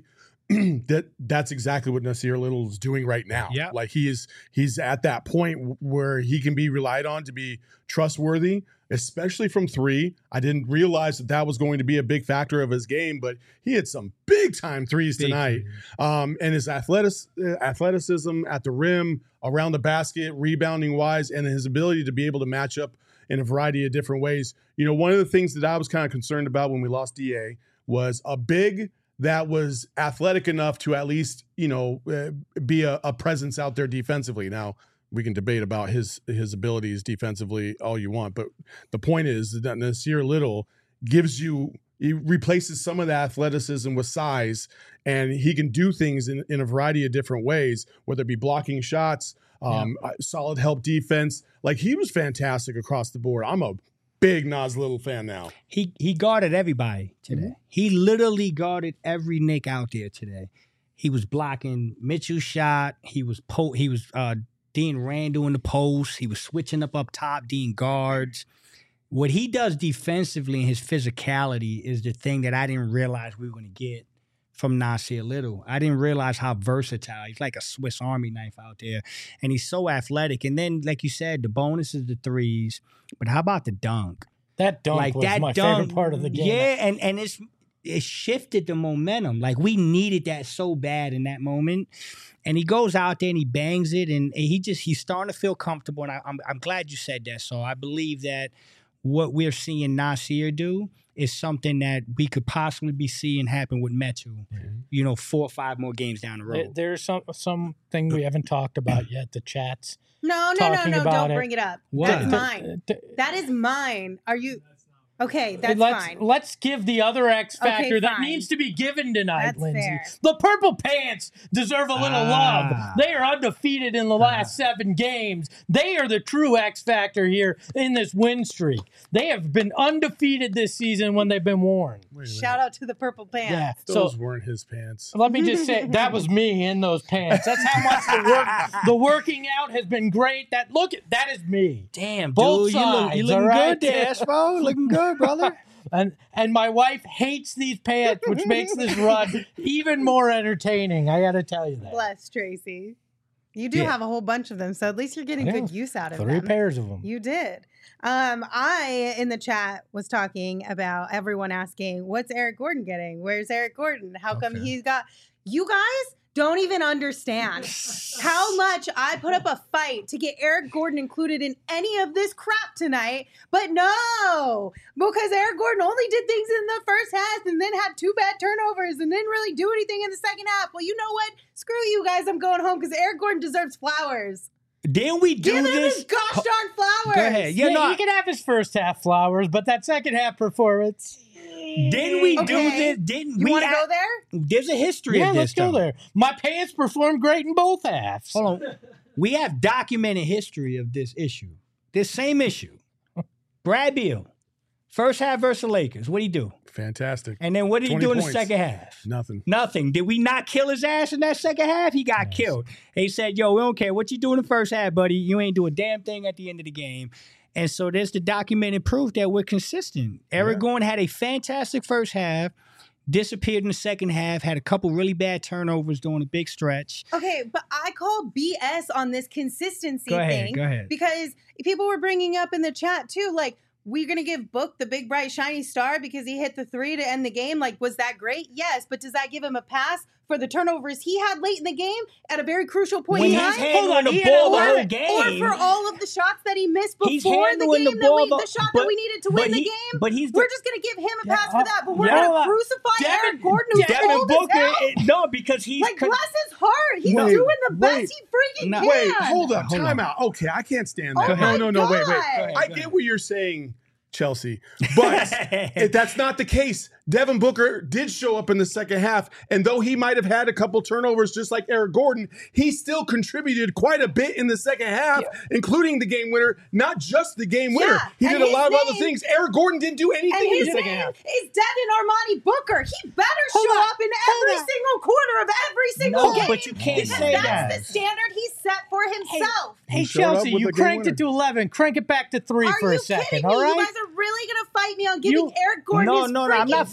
that that's exactly what Nasir Little is doing right now. Yeah. Like he is he's at that point where he can be relied on to be trustworthy, especially from three. I didn't realize that that was going to be a big factor of his game, but he had some big time threes Big tonight. threes. Um, and his athletic, athleticism at the rim, around the basket, rebounding wise, and his ability to be able to match up in a variety of different ways. You know, one of the things that I was kind of concerned about when we lost D A was a big that was athletic enough to at least, you know, uh, be a, a presence out there defensively. Now, we can debate about his his abilities defensively all you want, but the point is that Nasir Little gives you, he replaces some of the athleticism with size, and he can do things in, in a variety of different ways, whether it be blocking shots, um, yeah. solid help defense. Like, he was fantastic across the board. I'm a big Nas Little fan now. He he guarded everybody today. Mm-hmm. He literally guarded every Knick out there today. He was blocking Mitchell's shot. He was po- he was uh, Dean Randall in the post. He was switching up up top, Dean guards. What he does defensively and his physicality is the thing that I didn't realize we were going to get from Nasir Little. I didn't realize how versatile. He's like a Swiss Army knife out there. And he's so athletic. And then, like you said, the bonus is the threes. But how about the dunk? That dunk like was that my dunk, favorite part of the game. Yeah, and, and it's it shifted the momentum. Like, we needed that so bad in that moment. And he goes out there and he bangs it. And he just, he's starting to feel comfortable. And I, I'm, I'm glad you said that. So I believe that what we're seeing Nasir do is something that we could possibly be seeing happen with Metu, mm-hmm. you know, four or five more games down the road. There, there's some something we haven't talked about yet, the chats. No, no, no, no, don't it. bring it up. What? That's The, mine. the, that is mine. Are you... Okay, that's let's, fine. Let's give the other X factor Okay, that fine. needs to be given tonight, That's Lindsay. fair. The Purple Pants deserve a little Ah. love. They are undefeated in the last ah. seven games. They are the true X factor here in this win streak. They have been undefeated this season when they've been worn. Shout out to the Purple Pants. Yeah, those so, weren't his pants. Let me just say, that was me in those pants. That's how much the work, the working out has been great. That look, that is me. Damn, Both dude, you, look, you sides, looking all right? good there, Espo. Looking good, brother. And and my wife hates these pants, which makes this run even more entertaining. I got to tell you that. Bless Tracy. You do Yeah. have a whole bunch of them, so at least you're getting Yeah. good use out of Three them. pairs of them. You did. Um, I, in the chat, was talking about everyone asking, what's Eric Gordon getting? Where's Eric Gordon? How come Okay. he's got... You guys don't even understand how much I put up a fight to get Eric Gordon included in any of this crap tonight. But no, because Eric Gordon only did things in the first half and then had two bad turnovers and didn't really do anything in the second half. Well, you know what? Screw you guys. I'm going home because Eric Gordon deserves flowers. Didn't we do Give him this? his gosh darn flowers. Go ahead. Yeah, Yeah, no, he can have his first half flowers, but that second half performance. didn't we do Okay. this? Didn't You we? want to act- go there? There's a history Yeah, of this. let's go though. there. My pants performed great in both halves. Hold on. We have documented history of this issue. This same issue. Brad Beal, first half versus the Lakers. What did he do? Fantastic. And then what did he twenty do in the points. second half? Nothing. Nothing. Did we not kill his ass in that second half? He got Yes. killed. He said, yo, we don't care what you do in the first half, buddy. You ain't do a damn thing at the end of the game. And so there's the documented proof that we're consistent. Eric Yeah. Gordon had a fantastic first half, disappeared in the second half, had a couple really bad turnovers during a big stretch. Okay, but I call B S on this consistency Go ahead, thing go ahead. because people were bringing up in the chat too, like, we're going to give Book the big, bright, shiny star because he hit the three to end the game. Like, was that great? Yes, but does that give him a pass for the turnovers he had late in the game at a very crucial point When in he's time? handling the he ball the or, whole or game. for all of the shots that he missed He's before the handling game, the that we, ball, the shot but- that we needed to but win the he- game. but he's the- we're just going to give him a pass Yeah, for that, but we're yeah. going to crucify Devin- Eric Gordon, who's Devin cold as Booker, hell. it- no, because he's Like, con- bless his heart. He's Wait, doing the best wait. he freaking No. can. Wait, hold up. Hold Time on. out. Okay, I can't stand Oh that. my no, no, no. Wait, wait. God. ahead, I go get ahead. what you're saying, Chelsea, but if that's not the case. Devin Booker did show up in the second half, and though he might have had a couple turnovers just like Eric Gordon, he still contributed quite a bit in the second half, Yeah. including the game winner, not just the game winner. Yeah, He and did a his lot of other name- things. Eric Gordon didn't do anything And in his the second name half. is Devin Armani Booker. He better Hold show on. up in Hold every on. single corner of every single No, game. but you can't because say that's that. the standard he set for himself. Hey, He showed up Chelsea, with you the game cranked it winner. to eleven. Crank it back to three Are for you a second, kidding all me? right? You guys are really going to fight me on giving You- Eric Gordon No, his no, no, I'm freaking not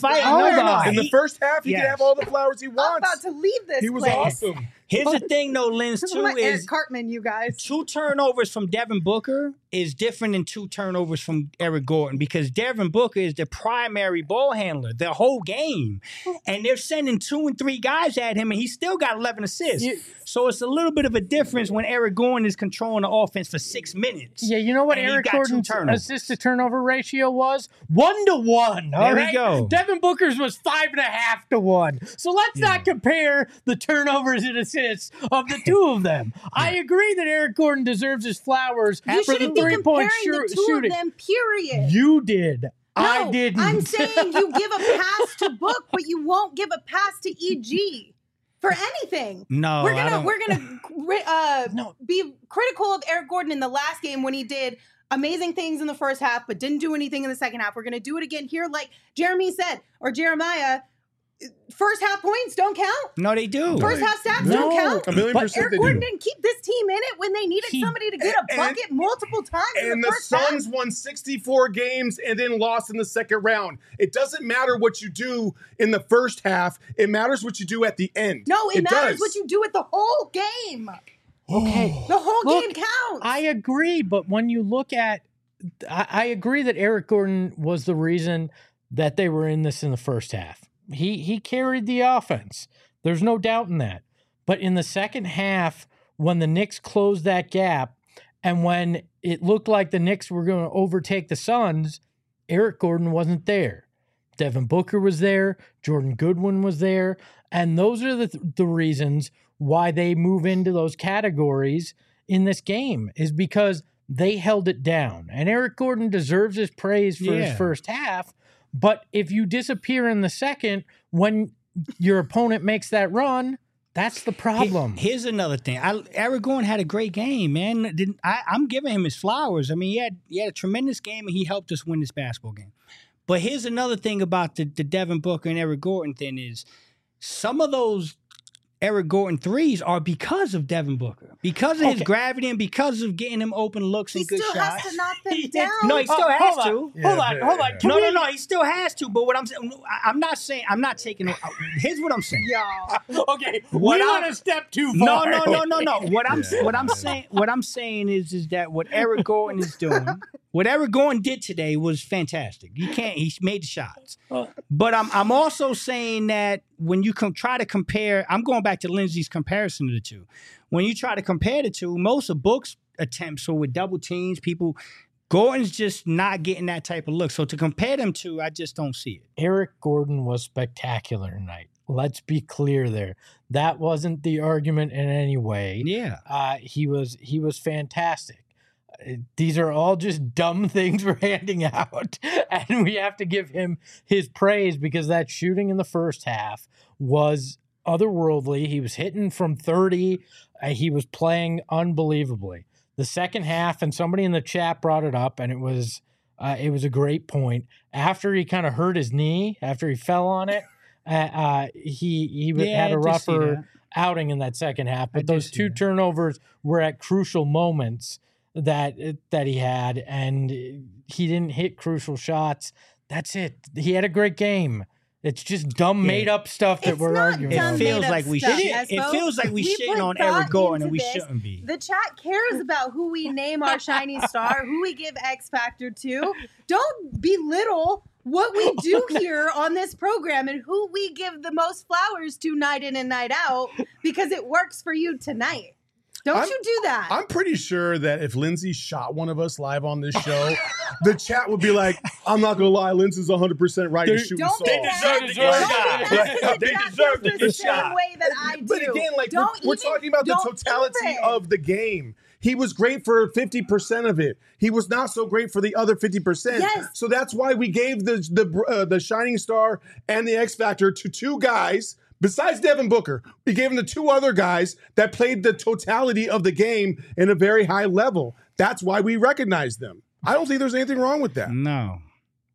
fight. Oh, No, no, God. no. In the He- first half, he Yes. can have all the flowers he I'm wants. about to leave this He was place. awesome. Here's the thing, though, Linz, This is too, my Eric is Cartman, you guys. two turnovers from Devin Booker is different than two turnovers from Eric Gordon because Devin Booker is the primary ball handler the whole game. And they're sending two and three guys at him, and he still got eleven assists. Yeah. So it's a little bit of a difference when Eric Gordon is controlling the offense for six minutes. Yeah, you know what And he Eric got two Gordon's turnovers. assist to turnover ratio was? One to one. All There we right? go. Devin Booker's was five and a half to one. So let's Yeah. not compare the turnovers and assists of the two of them. I agree that Eric Gordon deserves his flowers You for the shouldn't be three point comparing the two shooting. of them, period. You did. I No, didn't. I'm saying you give a pass to Book, but you won't give a pass to E G for anything. No, we're I gonna don't- we're gonna uh, No. be critical of Eric Gordon in the last game when he did amazing things in the first half, but didn't do anything in the second half. We're gonna do it again here, like Jeremy said or Jeremiah. First half points don't count. No, they do. First half stats No. don't count. A million But percent Eric they Gordon do. didn't keep this team in it when they needed He- somebody to get a and- bucket multiple times in And the the first half. Suns won sixty-four games and then lost in the second round. It doesn't matter what you do in the first half. It matters what you do at the end. No, it, matters does. what you do with the whole game. Okay. The whole Look, game counts. I agree, but when you look at, I, I agree that Eric Gordon was the reason that they were in this in the first half. He he carried the offense. There's no doubt in that. But in the second half, when the Knicks closed that gap, and when it looked like the Knicks were going to overtake the Suns, Eric Gordon wasn't there. Devin Booker was there. Jordan Goodwin was there. And those are the, the reasons why they move into those categories in this game, is because they held it down. And Eric Gordon deserves his praise for Yeah. his first half. But if you disappear in the second when your opponent makes that run, that's the problem. Here- Here's another thing. I, Eric Gordon had a great game, man. Didn't, I, I'm giving him his flowers. I mean, he had he had a tremendous game, and he helped us win this basketball game. But here's another thing about the, the Devin Booker and Eric Gordon thing is some of those Eric Gordon threes are because of Devin Booker, because of his Okay. gravity and because of getting him open looks he and good still shots. has to knock them He did- down. No, he still Oh, has hold to. on. Hold on, hold on. Can No, we- no, no. He still has to. But what I'm saying, I- I'm not saying, I'm not taking. Here's what I'm saying. Y'all. Okay, What we I'm- went a step too No, far. no, no, no, no. What I'm Yeah. what I'm saying what I'm saying is is that what Eric Gordon is doing, what Eric Gordon did today was fantastic. You can't. He made the shots, but I'm I'm also saying that when you com- try to compare, I'm going back to Lindsay's comparison of the two. When you try to compare the two, most of Book's attempts are with double teams. People, Gordon's just not getting that type of look. So to compare them two, I just don't see it. Eric Gordon was spectacular tonight. Let's be clear there. That wasn't the argument in any way. Yeah. Uh, he was he was fantastic. Uh, These are all just dumb things we're handing out, and we have to give him his praise because that shooting in the first half was otherworldly. He was hitting from thirty. Uh, he was playing unbelievably. The second half, and somebody in the chat brought it up, and it was uh, it was a great point. After he kind of hurt his knee, after he fell on it, uh, uh, he he Yeah, had a I did see rougher that. outing in that second half. I But did those see two that. turnovers were at crucial moments that that he had, and he didn't hit crucial shots. That's it. He had a great game. It's just dumb, Yeah. made up stuff that It's we're not arguing It dumb about. made feels up like we stuff, should. yes, It folks. feels like we, We shitting put on thought Eric Gordon, and into we this. shouldn't be. The chat cares about who we name our shiny star, who we give X Factor to. Don't belittle what we do here on this program and who we give the most flowers to night in and night out because it works for you tonight. Don't I'm- you do that. I'm pretty sure that if Lindsay shot one of us live on this show, the chat would be like, I'm not going to lie, Lindsay's one hundred percent right to They- shoot Don't us be all. mad. deserve Don't to be get mad shot. because They the chat deserve feels to the get same shot. way that I do. But again, like Don't we're, we're even- talking about the don't totality even. of the game. He was great for fifty percent of it. He was not so great for the other fifty percent. Yes. So that's why we gave the the uh, the Shining Star and the X Factor to two guys besides Devin Booker. We gave him the two other guys that played the totality of the game in a very high level. That's why we recognize them. I don't think there's anything wrong with that. No.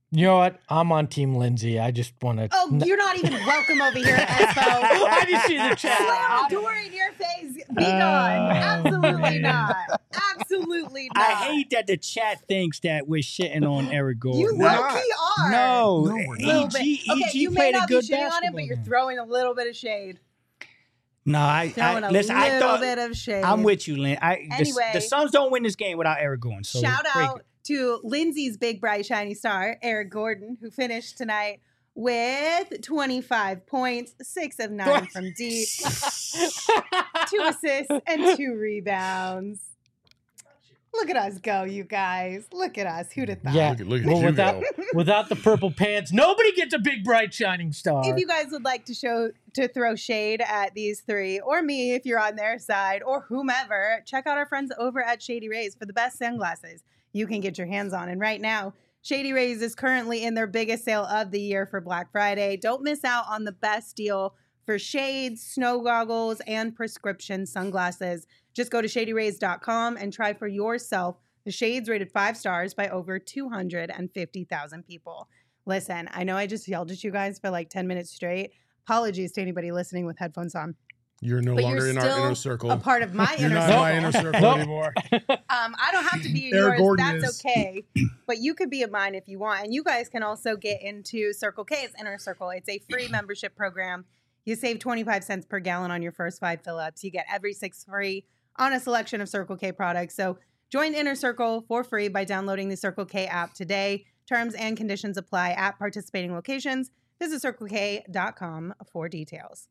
You know what? I'm on Team Lindsay. I just want to. Oh, you're not even welcome over here, Espo. I just see the chat. Slam a door in your face. Be gone. Absolutely not. Absolutely not. I hate that the chat thinks that we're shitting on Eric Gordon. You low-key are. No, No, we're E not. G, Okay, E G you may played a not be good shitting on him, basketball but you're game. throwing a little bit of shade. No, I, Throwing I a listen. little I thought bit of shade. I'm with you, Lynn. I, the, Anyway. the Suns don't win this game without Eric Gordon. So Shout break out it. to Lindsay's big, bright, shiny star, Eric Gordon, who finished tonight with twenty-five points, six of nine from deep, two assists, and two rebounds. Look at us go, you guys. Look at us. Who'd have thought? Yeah. Look at, look at Well, you without go. without the purple pants, nobody gets a big, bright, shining star. If you guys would like to show to throw shade at these three, or me if you're on their side, or whomever, check out our friends over at Shady Rays for the best sunglasses you can get your hands on. And right now, Shady Rays is currently in their biggest sale of the year for Black Friday. Don't miss out on the best deal for shades, snow goggles, and prescription sunglasses. Just go to shady rays dot com and try for yourself the shades rated five stars by over two hundred fifty thousand people. Listen, I know I just yelled at you guys for like ten minutes straight. Apologies to anybody listening with headphones on. You're no But longer you're in our still inner circle. A part of my You're inner not circle. in my inner circle Nope. anymore. Um, I don't have to be in Eric yours. Gordon That's is. okay. But you could be in mine if you want. And you guys can also get into Circle K's Inner Circle. It's a free membership program. You save twenty-five cents per gallon on your first five fill-ups. You get every six free on a selection of Circle K products. So join Inner Circle for free by downloading the Circle K app today. Terms and conditions apply at participating locations. Visit circle k dot com for details.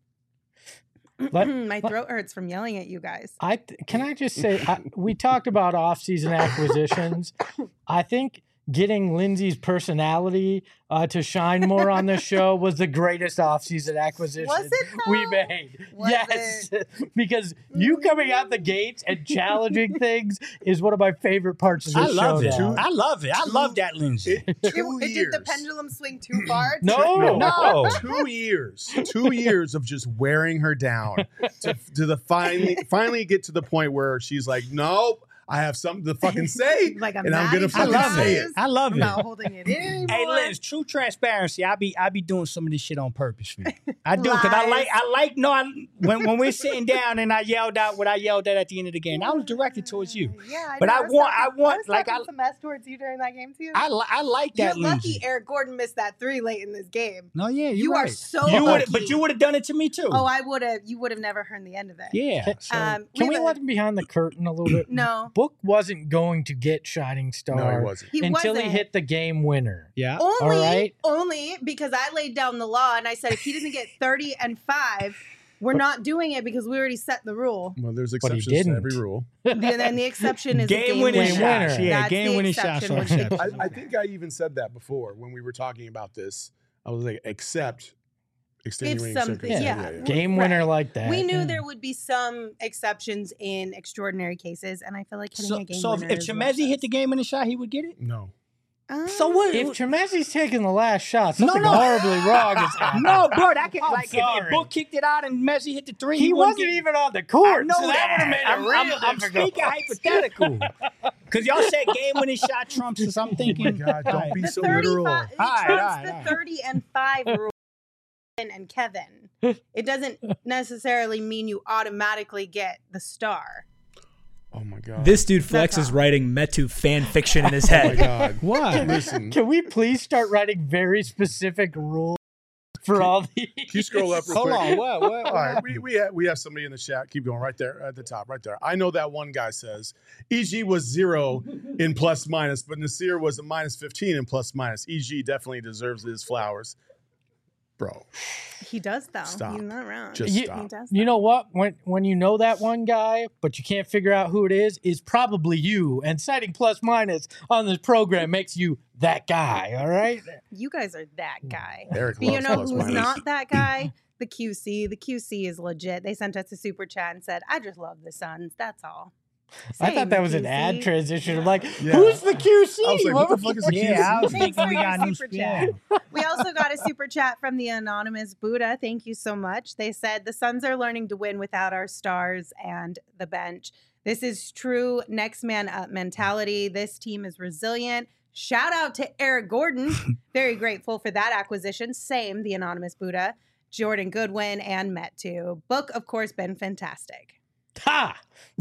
Let- My throat hurts from yelling at you guys. I th- can I just say I, we talked about off-season acquisitions. I think getting Lindsay's personality uh, to shine more on this show was the greatest off-season acquisition Was it, we though? made. Was yes, because you coming out the gates and challenging things is one of my favorite parts of this I love show. it. now. I love it. I love that, Lindsay. It, It, two it years. did the pendulum swing too far? No, No. Two years. Two years of just wearing her down to, to the finally finally get to the point where she's like, nope, I have something to fucking say. Like I'm and I'm mad gonna at you I fucking love say guys. it. I love I'm it. not holding it in anymore. Hey, Liz, true transparency. I be I be doing some of this shit on purpose for you. I do because I Lies. like I like no. I, when when we're sitting down and I yelled out what I yelled at at the end of the game, I was directed towards you. Yeah, I But know. I was want- talking- I want- was like, talking I- some mess towards you during that game too. I li- I like You're that, lucky Lindsay. Eric Gordon missed that three late in this game. No, yeah, you're You are right. so you would, lucky. but you would have done it to me too. Oh, I would have. You would have never heard the end of it. yeah. Can, So, Um, can we we have a- let him behind the curtain a little bit? No, Book wasn't going to get Shining Star No, he wasn't. he until wasn't. he hit the game winner. yeah. Only, All right. only because I laid down the law and I said if he doesn't get thirty and five, we're not doing it because we already set the rule. Well, there's But he exceptions to didn't. every rule. And then the exception is Game game winning winning winner. shots. Yeah, That's game the winning shots. exception, are which he- exceptions. I, I think I even said that before when we were talking about this. I was like, except extenuating something- circumstances. yeah. Game Right. winner like that. We knew Yeah. there would be some exceptions in extraordinary cases, and I feel like hitting So, a game so if, winner if is one Chemezi of those. hit the game winning shot, he would get it. No. Uh, So what? If Tremezi's taking the last shot, No, something no. horribly wrong is happening. No, bro, that can I'm like if, if sorry. Book kicked it out and Messi hit the three, He wouldn't wasn't get- even on the I court. know so that would have made it I'm, real I'm, I'm difficult. speaking hypothetical. Because y'all said game winning shot trumps us. I'm Oh my thinking. God, don't Alright. be the so thirty-five, literal. it All right, trumps all right, the all right. thirty and five rule. And Kevin, it doesn't necessarily mean you automatically get the star. Oh my God. This dude Flex That's is all. writing Metu fan fiction in his Oh my head. God. Why? Listen. Can we please start writing very specific rules for all these? Can you scroll up real Hold quick? on. What? What? All right, we we have, we have somebody in the chat. Keep going right there at the top, right there. I know that one guy says E G was zero in plus minus, but Nasir was a minus fifteen in plus minus. E G definitely deserves his flowers, bro. He does though. Stop. He's not wrong. Just he stop. does. You though. know what? When when you know that one guy, but you can't figure out who it is, is probably you. And citing plus minus on this program makes you that guy. All right. You guys are that guy. Eric But you loves know plus who's minus. not that guy? The Q C. The Q C is legit. They sent us a super chat and said, "I just love the Suns. That's all." I Same, thought that was an Q C. ad transition. I'm like, Yeah. who's the Q C? I was like, what the fuck is a Q C? Yeah, I was Thanks thinking for we your got new super yeah. chat. We also got a super chat from the anonymous Buddha. Thank you so much. They said the Suns are learning to win without our stars and the bench. This is true next man up mentality. This team is resilient, Shout out to Eric Gordon. Very grateful for that acquisition. Same, the anonymous Buddha. Jordan Goodwin and Met too. Book, of course, been fantastic. Ha!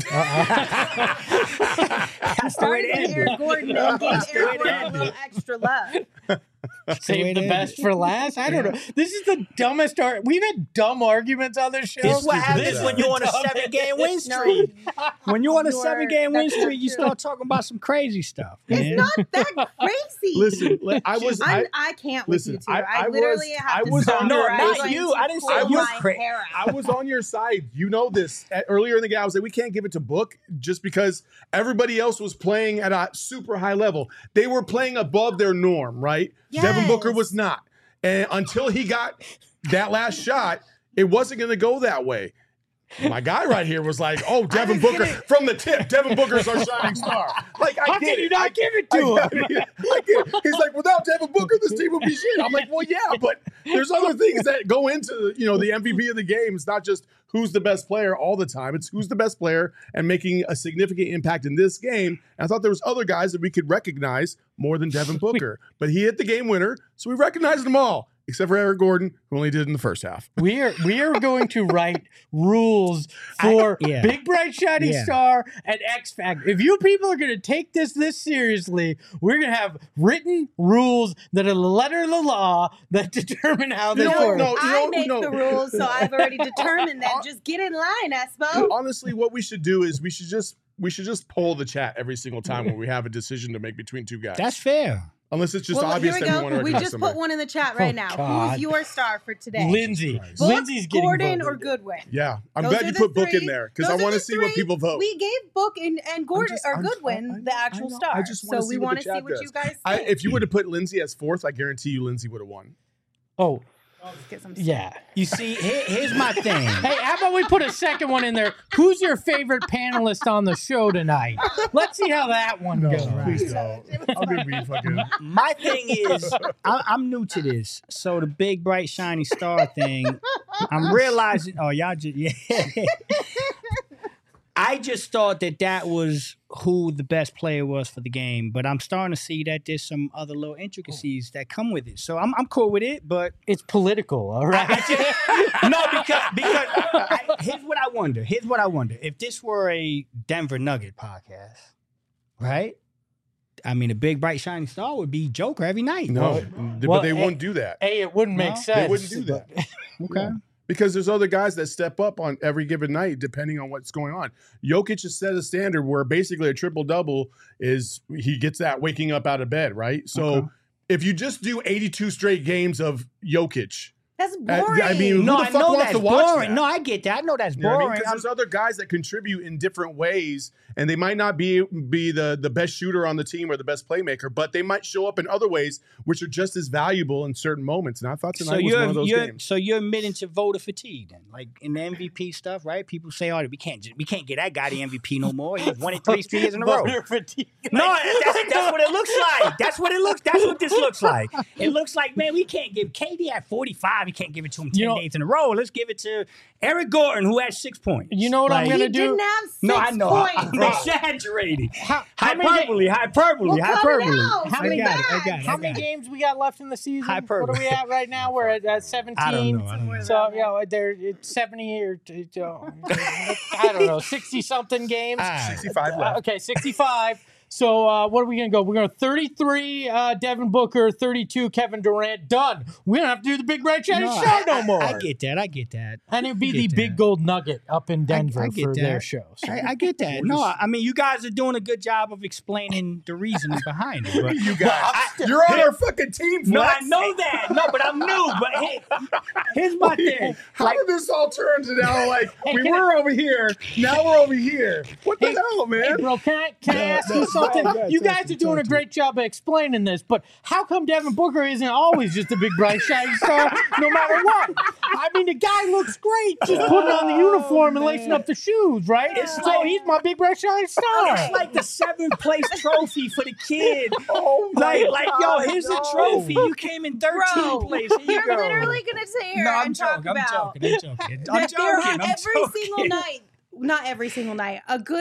That's the way Started to with end Eric it. Gordon and gave Eric Gordon a little extra love. Save the it best is. for last. I don't know. This is the dumbest. Ar- We've had dumb arguments on this show. This is what stupid happens is when that? you're on a seven-game win No, streak. When you're on a You're- seven-game win that's not streak, you true. start talking about some crazy stuff. Man. it's not that crazy. Listen, I was. I, I'm, I can't with listen, you two. I- I, I literally was- have I to was stop on or your- I'm not going you. to I didn't say pull you. my Cra- hair out. I was on your side. You know this. At- Earlier in the game, I was like, we can't give it to Book just because everybody else was playing at a super high level. They were playing above their norm, right? Devin Booker Yes. was not. And until he got that last shot, it wasn't going to go that way. My guy right here was like, "Oh, Devin Booker from the tip. Devin Booker's our shining star." Like, I How get can you it. not I, give it I, to him? I, get it. He's like, without Devin Booker, this team would be shit. I'm like, well, yeah, but there's other things that go into, you know, the M V P of the game. It's not just who's the best player all the time. It's who's the best player and making a significant impact in this game. And I thought there was other guys that we could recognize more than Devin Booker, but he hit the game winner, so we recognized them all. Except for Eric Gordon, who only did it in the first half. We are we are going to write rules for I- yeah. Big Bright Shiny Yeah. Star and X Factor. If you people are going to take this this seriously, we're going to have written rules that are the letter of the law that determine how they You know what? work. No, you I know- make no. the rules, so I've already determined that. Just get in line, Espo. Honestly, what we should do is we should just we should just poll the chat every single time when we have a decision to make between two guys. That's fair. Unless it's just Well, obvious here we that we want go. to We recognize just somebody. put one in the chat right Oh, now. God. Who's your star for today? Lindsay. Christ. Book, Lindsay's getting Gordon, voted. or Goodwin? Yeah, I'm Those glad are you the put Book three. in there because Those I are want to the see what three. people vote. We gave Book and, and Gordon just- or I'm- Goodwin I- I know, the actual I know. star. I just wanna so see we what want the to see chat what does. you guys think. I, if you would have put Lindsay as fourth, I guarantee you Lindsay would have won. Oh, Let's get some yeah. You see, here, here's my thing. Hey, how about we put a second one in there? Who's your favorite panelist on the show tonight? Let's see how that one goes. Please don't. I'm gonna be fucking. My thing is, I, I'm new to this, so the big bright shiny star thing. I'm realizing. Oh, y'all just yeah. I just thought that that was who the best player was for the game, but I'm starting to see that there's some other little intricacies that come with it. So I'm I'm cool with it, but It's political, all right? no, because because I, here's what I wonder. Here's what I wonder. If this were a Denver Nugget podcast, right? I mean, a big bright shining star would be Joker every night. No, but Well, they eh, won't do that A, it wouldn't make No, sense. they wouldn't do that. Okay. because there's other guys that step up on every given night depending on what's going on. Jokic has set a standard where basically a triple double is he gets that waking up out of bed, right? So Okay. if you just do eighty-two straight games of Jokic. That's I- boring. I mean, who No, the I fuck know wants that's to watch boring. that? No, I get that. I know that's You know what I mean? boring. Because I'm- there's other guys that contribute in different ways, and they might not be be the the best shooter on the team or the best playmaker, but they might show up in other ways which are just as valuable in certain moments. And I thought tonight so was you're one of those you're games. so you're admitting to voter fatigue then, like in the M V P stuff, right? People say, "Oh, we can't just, we can't get that guy the M V P no more. He's won it three three years in a row." Voter fatigue. No, that's, that's what it looks like. That's what it looks. That's what this looks like. It looks like, man, we can't give K D at forty-five. We can't give it to him ten You know- days in a row. Let's give it to Eric Gordon, who had six points. You know what I'm Like- gonna he do? didn't have six No, I know. points. I'm exaggerating. How, how many, Hyperbole, hyperbole, Well, cut it hyperbole. out. How I many- got it. I got it. how I many got it. games we got left in the season? Hyperbole. What are we at right now? We're at, at seventeen. I don't know. I don't know. So, you know, there it's seventy or t- t- I don't know, sixty something games. Ah. sixty-five Uh, left. okay, sixty-five. So uh, what are we gonna go? We're going thirty-three uh, Devin Booker, thirty-two Kevin Durant. Done. We don't have to do the big red shiny No, show I, no I- more. I get that. I get that. and it'd be I the get big that. gold nugget up in Denver I get for that. their show. So. I, I get that. No, I mean, you guys are doing a good job of explaining the reasoning behind it. But You guys, you're on our fucking team. no, I Flex. know that. No, but I'm new. But hey, here's my thing. How Like, did this all turn to now? Like we can were over here, now we're over here. What the hell, Hey, man? bro, can I, can I No, ask no, you something? go ahead, you talk guys to are me, doing a talk to great job of explaining this, but how come Devin Booker isn't always just a big bright shiny star no matter what? I mean, the guy looks great just putting on the uniform and lacing up the shoes, right? It's so like- he's my big bright shiny star. it's like the seventh place trophy for the kid. Oh my Like, like, yo, God, here's no. a trophy. You came in thirteenth Bro, place. Here you You're go. literally going to sit here No, I'm and talk joking. I'm about joking. I'm joking. I'm that there are joking. I'm every joking. single night, not every single night, a good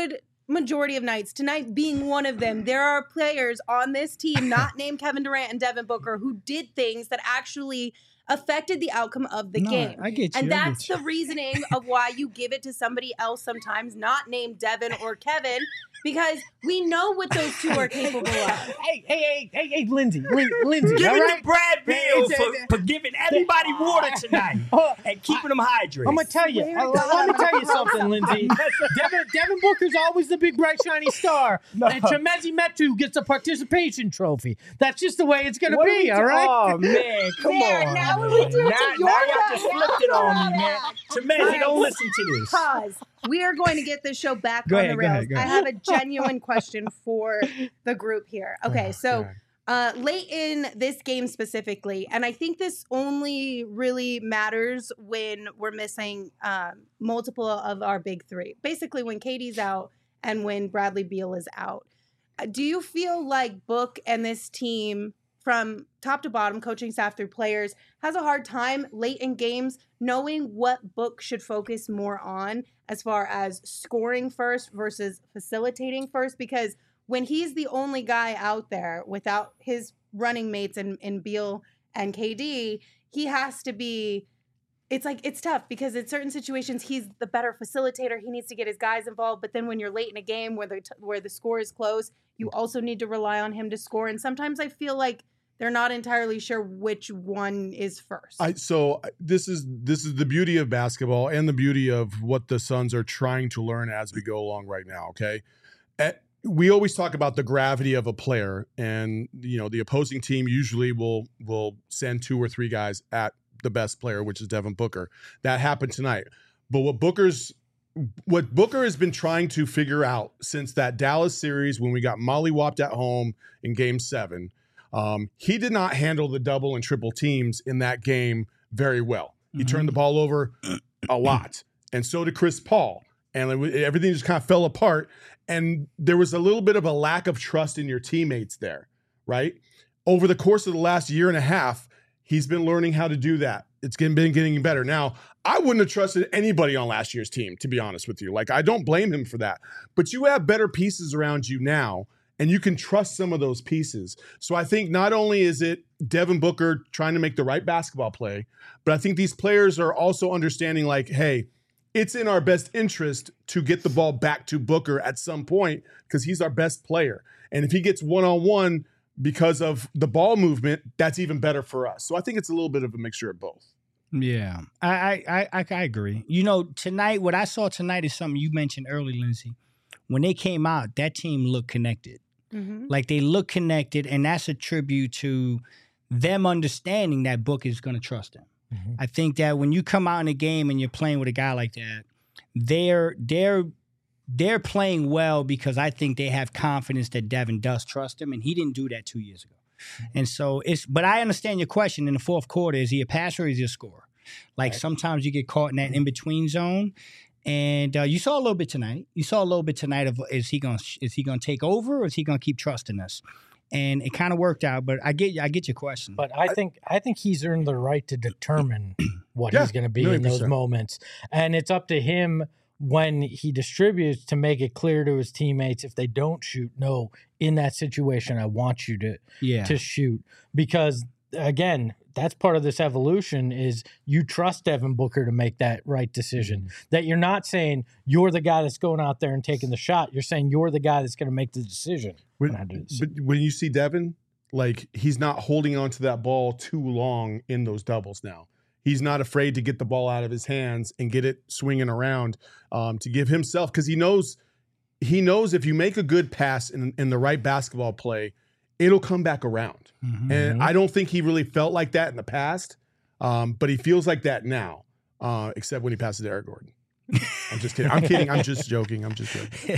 majority of nights, tonight being one of them, there are players on this team, not named Kevin Durant and Devin Booker, who did things that actually affected the outcome of the No, game. I get you. And I that's get the reasoning of why you give it to somebody else sometimes, not named Devin or Kevin, because we know what those two are capable of. Hey, hey, hey, hey, hey, Lindsay, Lin- Lindsay, Give all it right? to Brad Beal It's- for, for giving everybody water tonight Oh, and keeping them hydrated. I'm gonna tell you. Swear uh, to let me God. tell you something, Lindsay. Devin, Devin Booker's always the big bright shiny star, and Chemezi Metu gets a participation trophy. That's just the way it's gonna What are be. we All do- right. Oh man, come There, on. now man. we do it now, to your now y'all back. just Now flipped it we're on me, on man. that. Chemezi, don't listen to this. Pause. We are going to get this show back Go on ahead, the go rails. ahead, go I ahead. have a genuine question for the group here. Okay, Oh, so God. uh, late in this game specifically, and I think this only really matters when we're missing um, multiple of our big three. Basically, when K D's out and when Bradley Beal is out. Uh, Do you feel like Book and this team, from top to bottom, coaching staff through players, has a hard time late in games knowing what Book should focus more on as far as scoring first versus facilitating first? Because when he's the only guy out there without his running mates in, in Beal and K D, he has to be, it's like, it's tough because in certain situations, he's the better facilitator. He needs to get his guys involved. But then when you're late in a game where the, t- where the score is close, you also need to rely on him to score. And sometimes I feel like they're not entirely sure which one is first. I so I- this is this is the beauty of basketball and the beauty of what the Suns are trying to learn as we go along right now. Okay, At- we always talk about the gravity of a player, and you know the opposing team usually will will send two or three guys at the best player, which is Devin Booker. That happened tonight. But what Booker's what Booker has been trying to figure out since that Dallas series when we got mollywopped at home in Game Seven. Um, he did not handle the double and triple teams in that game very well. He Mhm. turned the ball over a lot, and so did Chris Paul. And it, wa- everything just kind of fell apart. And there was a little bit of a lack of trust in your teammates there, right? Over the course of the last year and a half, he's been learning how to do that. It's been been getting better. Now, I wouldn't have trusted anybody on last year's team, to be honest with you. Like, I don't blame him for that. But you have better pieces around you now, and you can trust some of those pieces. So I think not only is it Devin Booker trying to make the right basketball play, but I think these players are also understanding, like, hey, it's in our best interest to get the ball back to Booker at some point because he's our best player. And if he gets one-on-one because of the ball movement, that's even better for us. So I think it's a little bit of a mixture of both. Yeah, I, I, I, I I agree. You know, tonight, what I saw tonight is something you mentioned early, Lindsay. When they came out, that team looked connected. Mhm. Like they look connected, and that's a tribute to them understanding that Book is going to trust them. Mhm. I think that when you come out in a game and you're playing with a guy like that, they're they're they're playing well because I think they have confidence that Devin does trust him, and he didn't do that two years ago. And so it's, but I understand your question in the fourth quarter: is he a passer or is he a scorer? Like sometimes you get caught in that in between zone. And uh, you saw a little bit tonight. You saw a little bit tonight of is he going is he going to take over or is he going to keep trusting us? And it kind of worked out. But I get I get your question. But I think I think he's earned the right to determine what Yeah, he's going to be million in those percent. moments, and it's up to him when he distributes to make it clear to his teammates if they don't shoot. No, in that situation, I want you to yeah. to shoot because again, that's part of this evolution is you trust Devin Booker to make that right decision. Mm-hmm. That you're not saying you're the guy that's going out there and taking the shot. You're saying you're the guy that's going to make the decision. When, on how to do this. but when you see Devin, like he's not holding on to that ball too long in those doubles now. He's not afraid to get the ball out of his hands and get it swinging around um, to give himself, because he knows he knows if you make a good pass in, in the right basketball play, it'll come back around. Mhm. And I don't think he really felt like that in the past, um, but he feels like that now, uh, except when he passes to Eric Gordon. I'm just kidding. I'm kidding. I'm just joking. I'm just joking.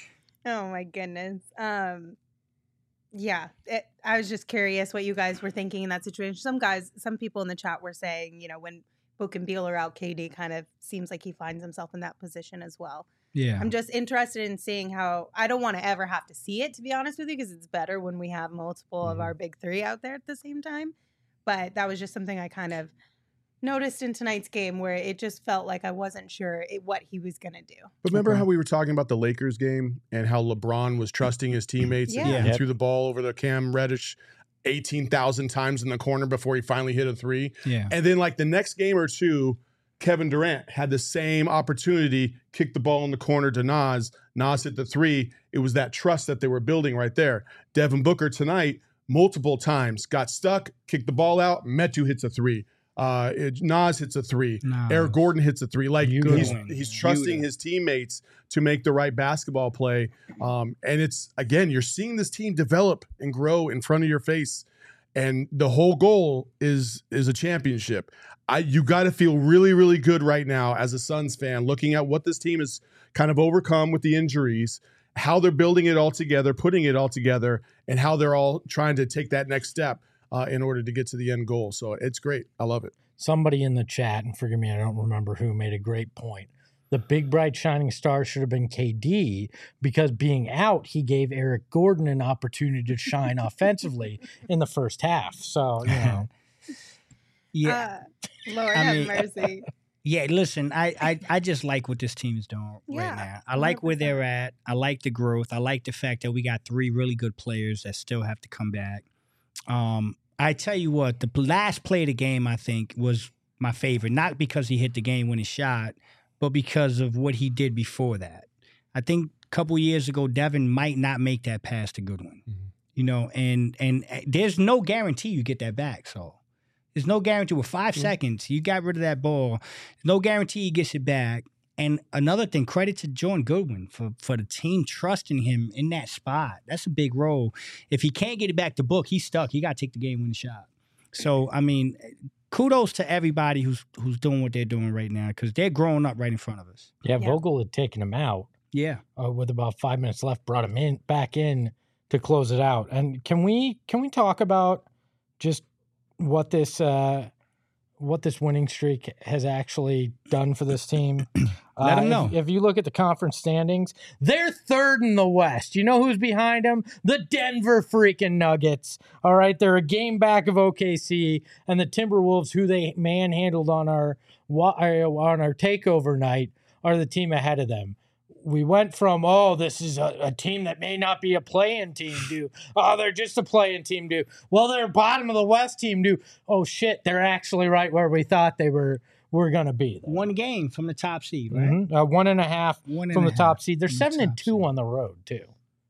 Oh my goodness. Um, yeah, it, I was just curious what you guys were thinking in that situation. Some guys, some people in the chat were saying, you know, when Book and Beal are out, K D kind of seems like he finds himself in that position as well. yeah. I'm just interested in seeing how, I don't want to ever have to see it, to be honest with you, because it's better when we have multiple of Mhm. our big three out there at the same time. But that was just something I kind of noticed in tonight's game where it just felt like I wasn't sure it, what he was going to do. But remember Okay. how we were talking about the Lakers game and how LeBron was trusting his teammates Yeah. and Yeah. threw the ball over the Cam Reddish eighteen thousand times in the corner before he finally hit a three. Yeah. And then like the next game or two, Kevin Durant had the same opportunity, kicked the ball in the corner to Nas. Nas hit the three. It was that trust that they were building right there. Devin Booker tonight, multiple times, got stuck, kicked the ball out. Metu hits a three. Uh, it- Nas hits a three. Nas. Eric Gordon hits a three. Like Beautiful. he's, he's trusting Beautiful. his teammates to make the right basketball play. Um, and it's, again, you're seeing this team develop and grow in front of your face. And the whole goal is is a championship. I you got to feel really, really good right now as a Suns fan, looking at what this team has kind of overcome with the injuries, how they're building it all together, putting it all together, and how they're all trying to take that next step uh, in order to get to the end goal. So it's great. I love it. Somebody in the chat, and forgive me, I don't remember who, made a great point. The big, bright, shining star should have been K D because being out, he gave Eric Gordon an opportunity to shine offensively in the first half. So, you know. Yeah. Uh, Lord I have mean- mercy. Yeah, listen, I, I I just like what this team is doing Yeah, right now. I like where they're at. I like the growth. I like the fact that we got three really good players that still have to come back. Um, I tell you what, the last play of the game, I think, was my favorite. Not because he hit the game-winning shot, but because of what he did before that. I think a couple years ago, Devin might not make that pass to Goodwin. You know, and and uh, there's no guarantee you get that back, so. There's no guarantee. With five Mm-hmm. seconds, you got rid of that ball. No guarantee he gets it back. And another thing, credit to Jordan Goodwin for, for the team trusting him in that spot. That's a big role. If he can't get it back to Book, he's stuck. He got to take the game-winning shot. So, I mean, kudos to everybody who's who's doing what they're doing right now because they're growing up right in front of us. Yeah, Yeah. Vogel had taken him out Yeah. uh, with about five minutes left, brought him in back in to close it out. And can we can we talk about just what this uh, what this winning streak has actually done for this team? Let 'em if- know. If, you look at the conference standings, they're third in the West. You know who's behind them? The Denver freaking Nuggets. All right, they're a game back of O K C and the Timberwolves, who they manhandled on our wa- uh, on our takeover night, are the team ahead of them. We went from, oh, this is a, a team that may not be a play-in team, do. Oh, they're just a play-in team, do. Well, they're bottom of the West team, do. Oh, shit, they're actually right where we thought they were were going to be. There. One game from the top seed, right? Mhm. Uh, one and a half One and from a the top half seed. They're from the seven and top two seed. on the road, too.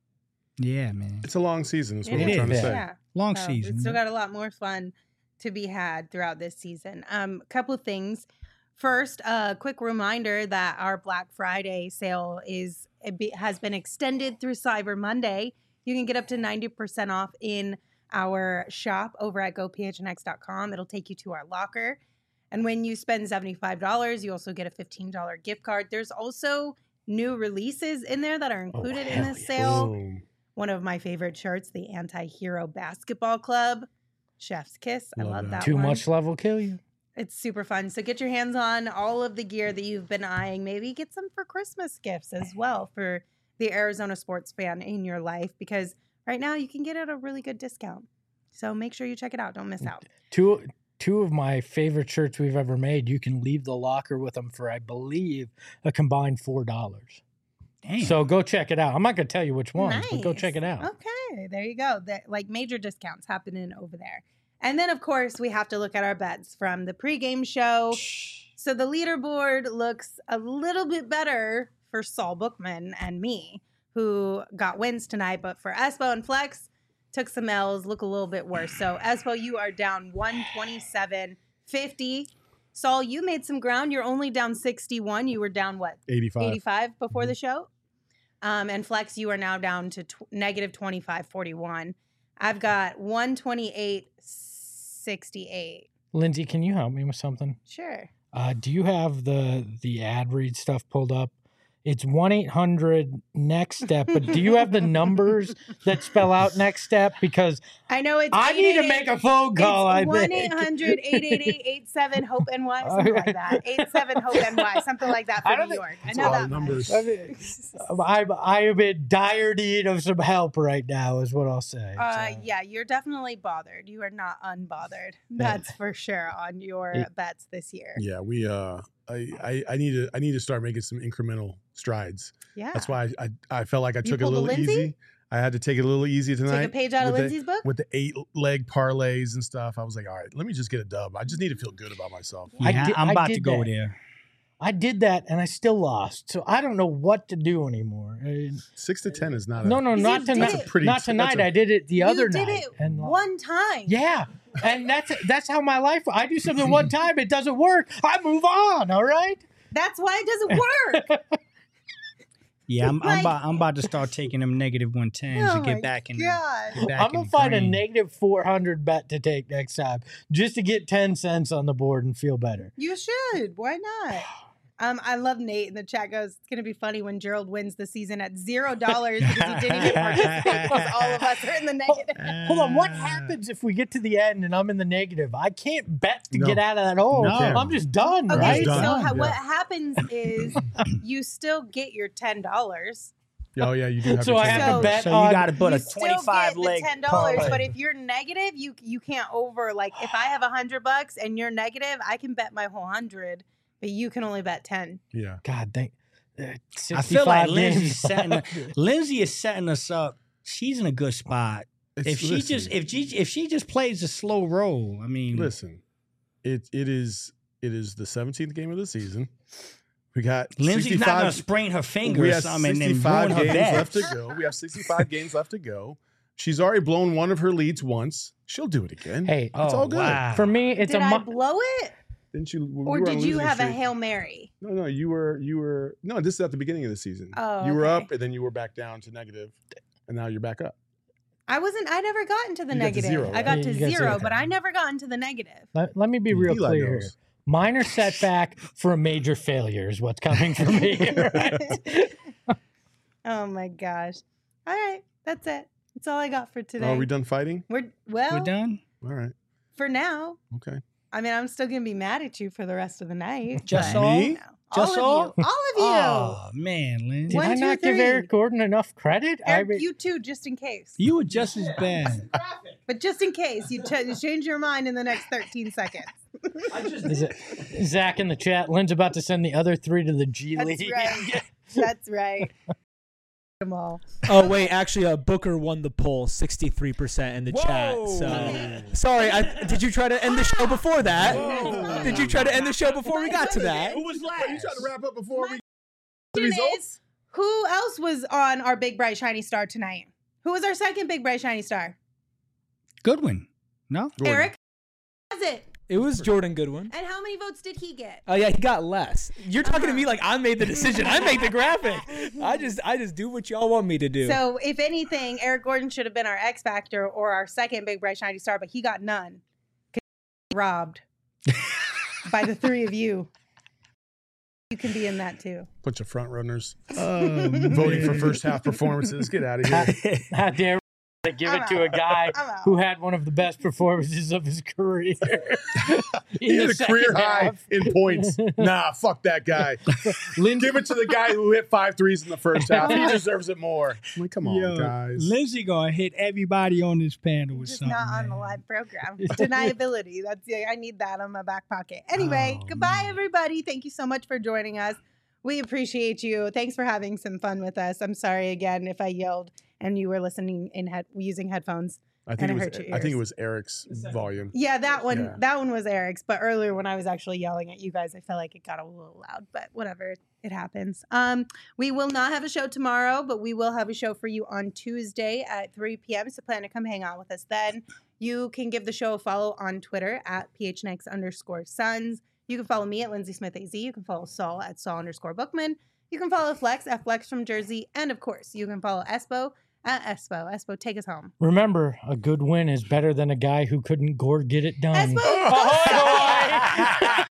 Yeah, man. It's a long season, is what It we're is, trying to yeah. say. Yeah. Long So season. We've still got a lot more fun to be had throughout this season. Um, a couple of things. First, a quick reminder that our Black Friday sale is it be, has been extended through Cyber Monday. You can get up to ninety percent off in our shop over at go p h n x dot com. It'll take you to our locker. And when you spend seventy-five dollars, you also get a fifteen dollars gift card. There's also new releases in there that are included in hell this yes. sale. Boom. One of my favorite shirts, the Anti-Hero Basketball Club. Chef's Kiss. I Love love that. that Too one. much love will kill you. It's super fun. So get your hands on all of the gear that you've been eyeing. Maybe get some for Christmas gifts as well for the Arizona sports fan in your life because right now you can get it at a really good discount. So make sure you check it out. Don't miss out. Two two of my favorite shirts we've ever made. You can leave the locker with them for, I believe, a combined four dollars. Damn. So go check it out. I'm not going to tell you which ones, but go Nice. check it out. Okay, there you go. That like major discounts happening over there. And then of course we have to look at our bets from the pregame show. So the leaderboard looks a little bit better for Saul Bookman and me, who got wins tonight, but for Espo and Flex, took some L's, look a little bit worse. So Espo, you are down one twenty-seven fifty. Saul, you made some ground. You're only down sixty-one. You were down what? eighty-five. eighty-five before the show. Um, and Flex, you are now down to tw- negative twenty-five forty-one. I've got one twenty-eight sixty-eight. Lindsay, can you help me with something? Sure. Uh, do you have the the ad read stuff pulled up? It's one eight hundred next step. But do you have the numbers that spell out next step? Because I know it's. I need to make a phone call. I It's one think. eight hundred eight eight eight eight seven hope N Y, something like that. eight seven hope N Y, something like that I for don't New think- York. I That's know a lot that of numbers. I mean, I'm I'm in dire need of some help right now, is what I'll say. Uh, So, yeah, you're definitely bothered. You are not unbothered. That's for sure on your Yeah. bets this year. Yeah, we. Uh, I, I, I need to. I need to start making some incremental strides. Yeah. That's why I, I, I felt like I took it a pulled a little Lindsay? easy. I had to take it a little easy tonight. Take a page out of with the- Lindsay's book. with the eight leg parlays and stuff. I was like, all right, let me just get a dub. I just need to feel good about myself. I Yeah, did- I'm I about did to go that. there. I did that and I still lost. So I don't know what to do anymore. I- Six to ten is not. no, a, no, You not did tonight. it. pretty- not that's tonight. a- I did it the other you did night. it and one time. yeah. And that's that's how my life. I do something one time, it doesn't work. I move on. All right. That's why it doesn't work. Yeah, I'm, Like- I'm about I'm about to start taking them negative one tens Oh to my get back in. The, God. get back I'm in gonna the find a green. negative four hundred bet to take next time, just to get ten cents on the board and feel better. You should. Why not? Um, I love Nate in the chat goes, it's gonna be funny when Gerald wins the season at zero dollars because he didn't even participate because all of us are in the negative. Hold on, Uh, what happens if we get to the end and I'm in the negative? I can't bet to No. get out of that hole. No. I'm just done, Okay, right? so done. ha- Yeah. what happens is you still get your ten dollars. Oh yeah, you do have So to I take have it. to So- bet So on. you got to put you a still twenty-five get the leg ten dollars, parlay. but if you're negative, you you can't over like if I have a hundred bucks and you're negative, I can bet my whole hundred, but you can only bet ten. Yeah. God, thank. Uh, I feel like sixty-five Lindsay's games setting left. Lindsay is setting us up. She's in a good spot. It's, If she listen, just if she if she just plays a slow roll, I mean, listen, it it is it is the seventeenth game of the season. We got Lindsay's not gonna sixty-five sprain her finger We or have something and then sixty-five ruin her games bet. left to go. We have sixty-five games left to go. She's already blown one of her leads once. She'll do it again. Hey, it's all good. Oh, wow. for me, it's Did a. I Mo- blow it, Didn't you? we or were on did you losing have a streak. hail mary? No, no, you were you were no. This is at the beginning of the season. Oh, you were okay. up and then you were back down to negative, and now you're back up. I wasn't. I never got into the You got to negative. zero, I right? got Yeah, to you got zero, zero. but I never got into the negative. let, let me be real Eli clear knows. here. Minor setback for a major failure is what's coming for me. Right? Oh my gosh! All right, that's it. That's all I got for today. Are we done fighting? We're well We're done. All right. for now. Okay. I mean, I'm still gonna be mad at you for the rest of the night. Just but, all? you know, Just all all? of you, all of you. Oh man, Lindsay, Did One, I two, not give three. Eric Gordon enough credit? I Eric, mean- you too, just in case. you were just as bad. But just in case, you, ch- you change your mind in the next thirteen seconds. Is it, Zach in the chat. Lynn's about to send the other three to the G That's League. right. That's right. Them all. Oh wait, actually, uh, Booker won the poll, sixty-three percent in the chat. So sorry, I, did you try to end the show before that? Did you try to end the show before we got to that? Who was last? You trying to wrap up before we Question results? is, who else was on our Big Bright Shiny Star tonight? Who was our second Big Bright Shiny Star? Goodwin. No? Gordon. Eric. Was it? It was Jordan Goodwin. And how many votes did he get? Oh yeah, he got less. You're talking to me like I made the decision. I make the graphic. I just I just do what y'all want me to do. So, if anything, Eric Gordon should have been our X Factor or our second Big Bright Shiny Star, but he got none. 'Cause he was robbed by the three of you. You can be in that too. Bunch of front runners Oh, voting for first half performances. Get out of here. How dare to give I'm it to a out. guy I'm out. who had one of the best performances of his career. He had a career high in points. Nah, fuck that guy. Give it to the guy who hit five threes in the first half. He deserves it more. I'm like, come on, Yo, guys. Lindsay gonna hit everybody on this panel with Just something. not on the man. live program. Deniability. That's yeah, I need that on my back pocket. Anyway, Oh, goodbye, man. everybody. Thank you so much for joining us. We appreciate you. Thanks for having some fun with us. I'm sorry again if I yelled and you were listening in head using headphones. I think and it it was. hurt your I think it ears. was Eric's volume. Yeah, that one. Yeah. That one was Eric's. But earlier, when I was actually yelling at you guys, I felt like it got a little loud. But whatever, it happens. Um, we will not have a show tomorrow, but we will have a show for you on Tuesday at three p.m. So plan to come hang out with us then. You can give the show a follow on Twitter at phnx underscore Suns. You can follow me at Lindsay Smith A Z. You can follow Saul at Saul underscore Bookman. You can follow Flex at Flex from Jersey, and of course, you can follow Espo at Espo. Espo, take us home. Remember, a good win is better than a guy who couldn't gore get it done. Espo, Ahoy, boy!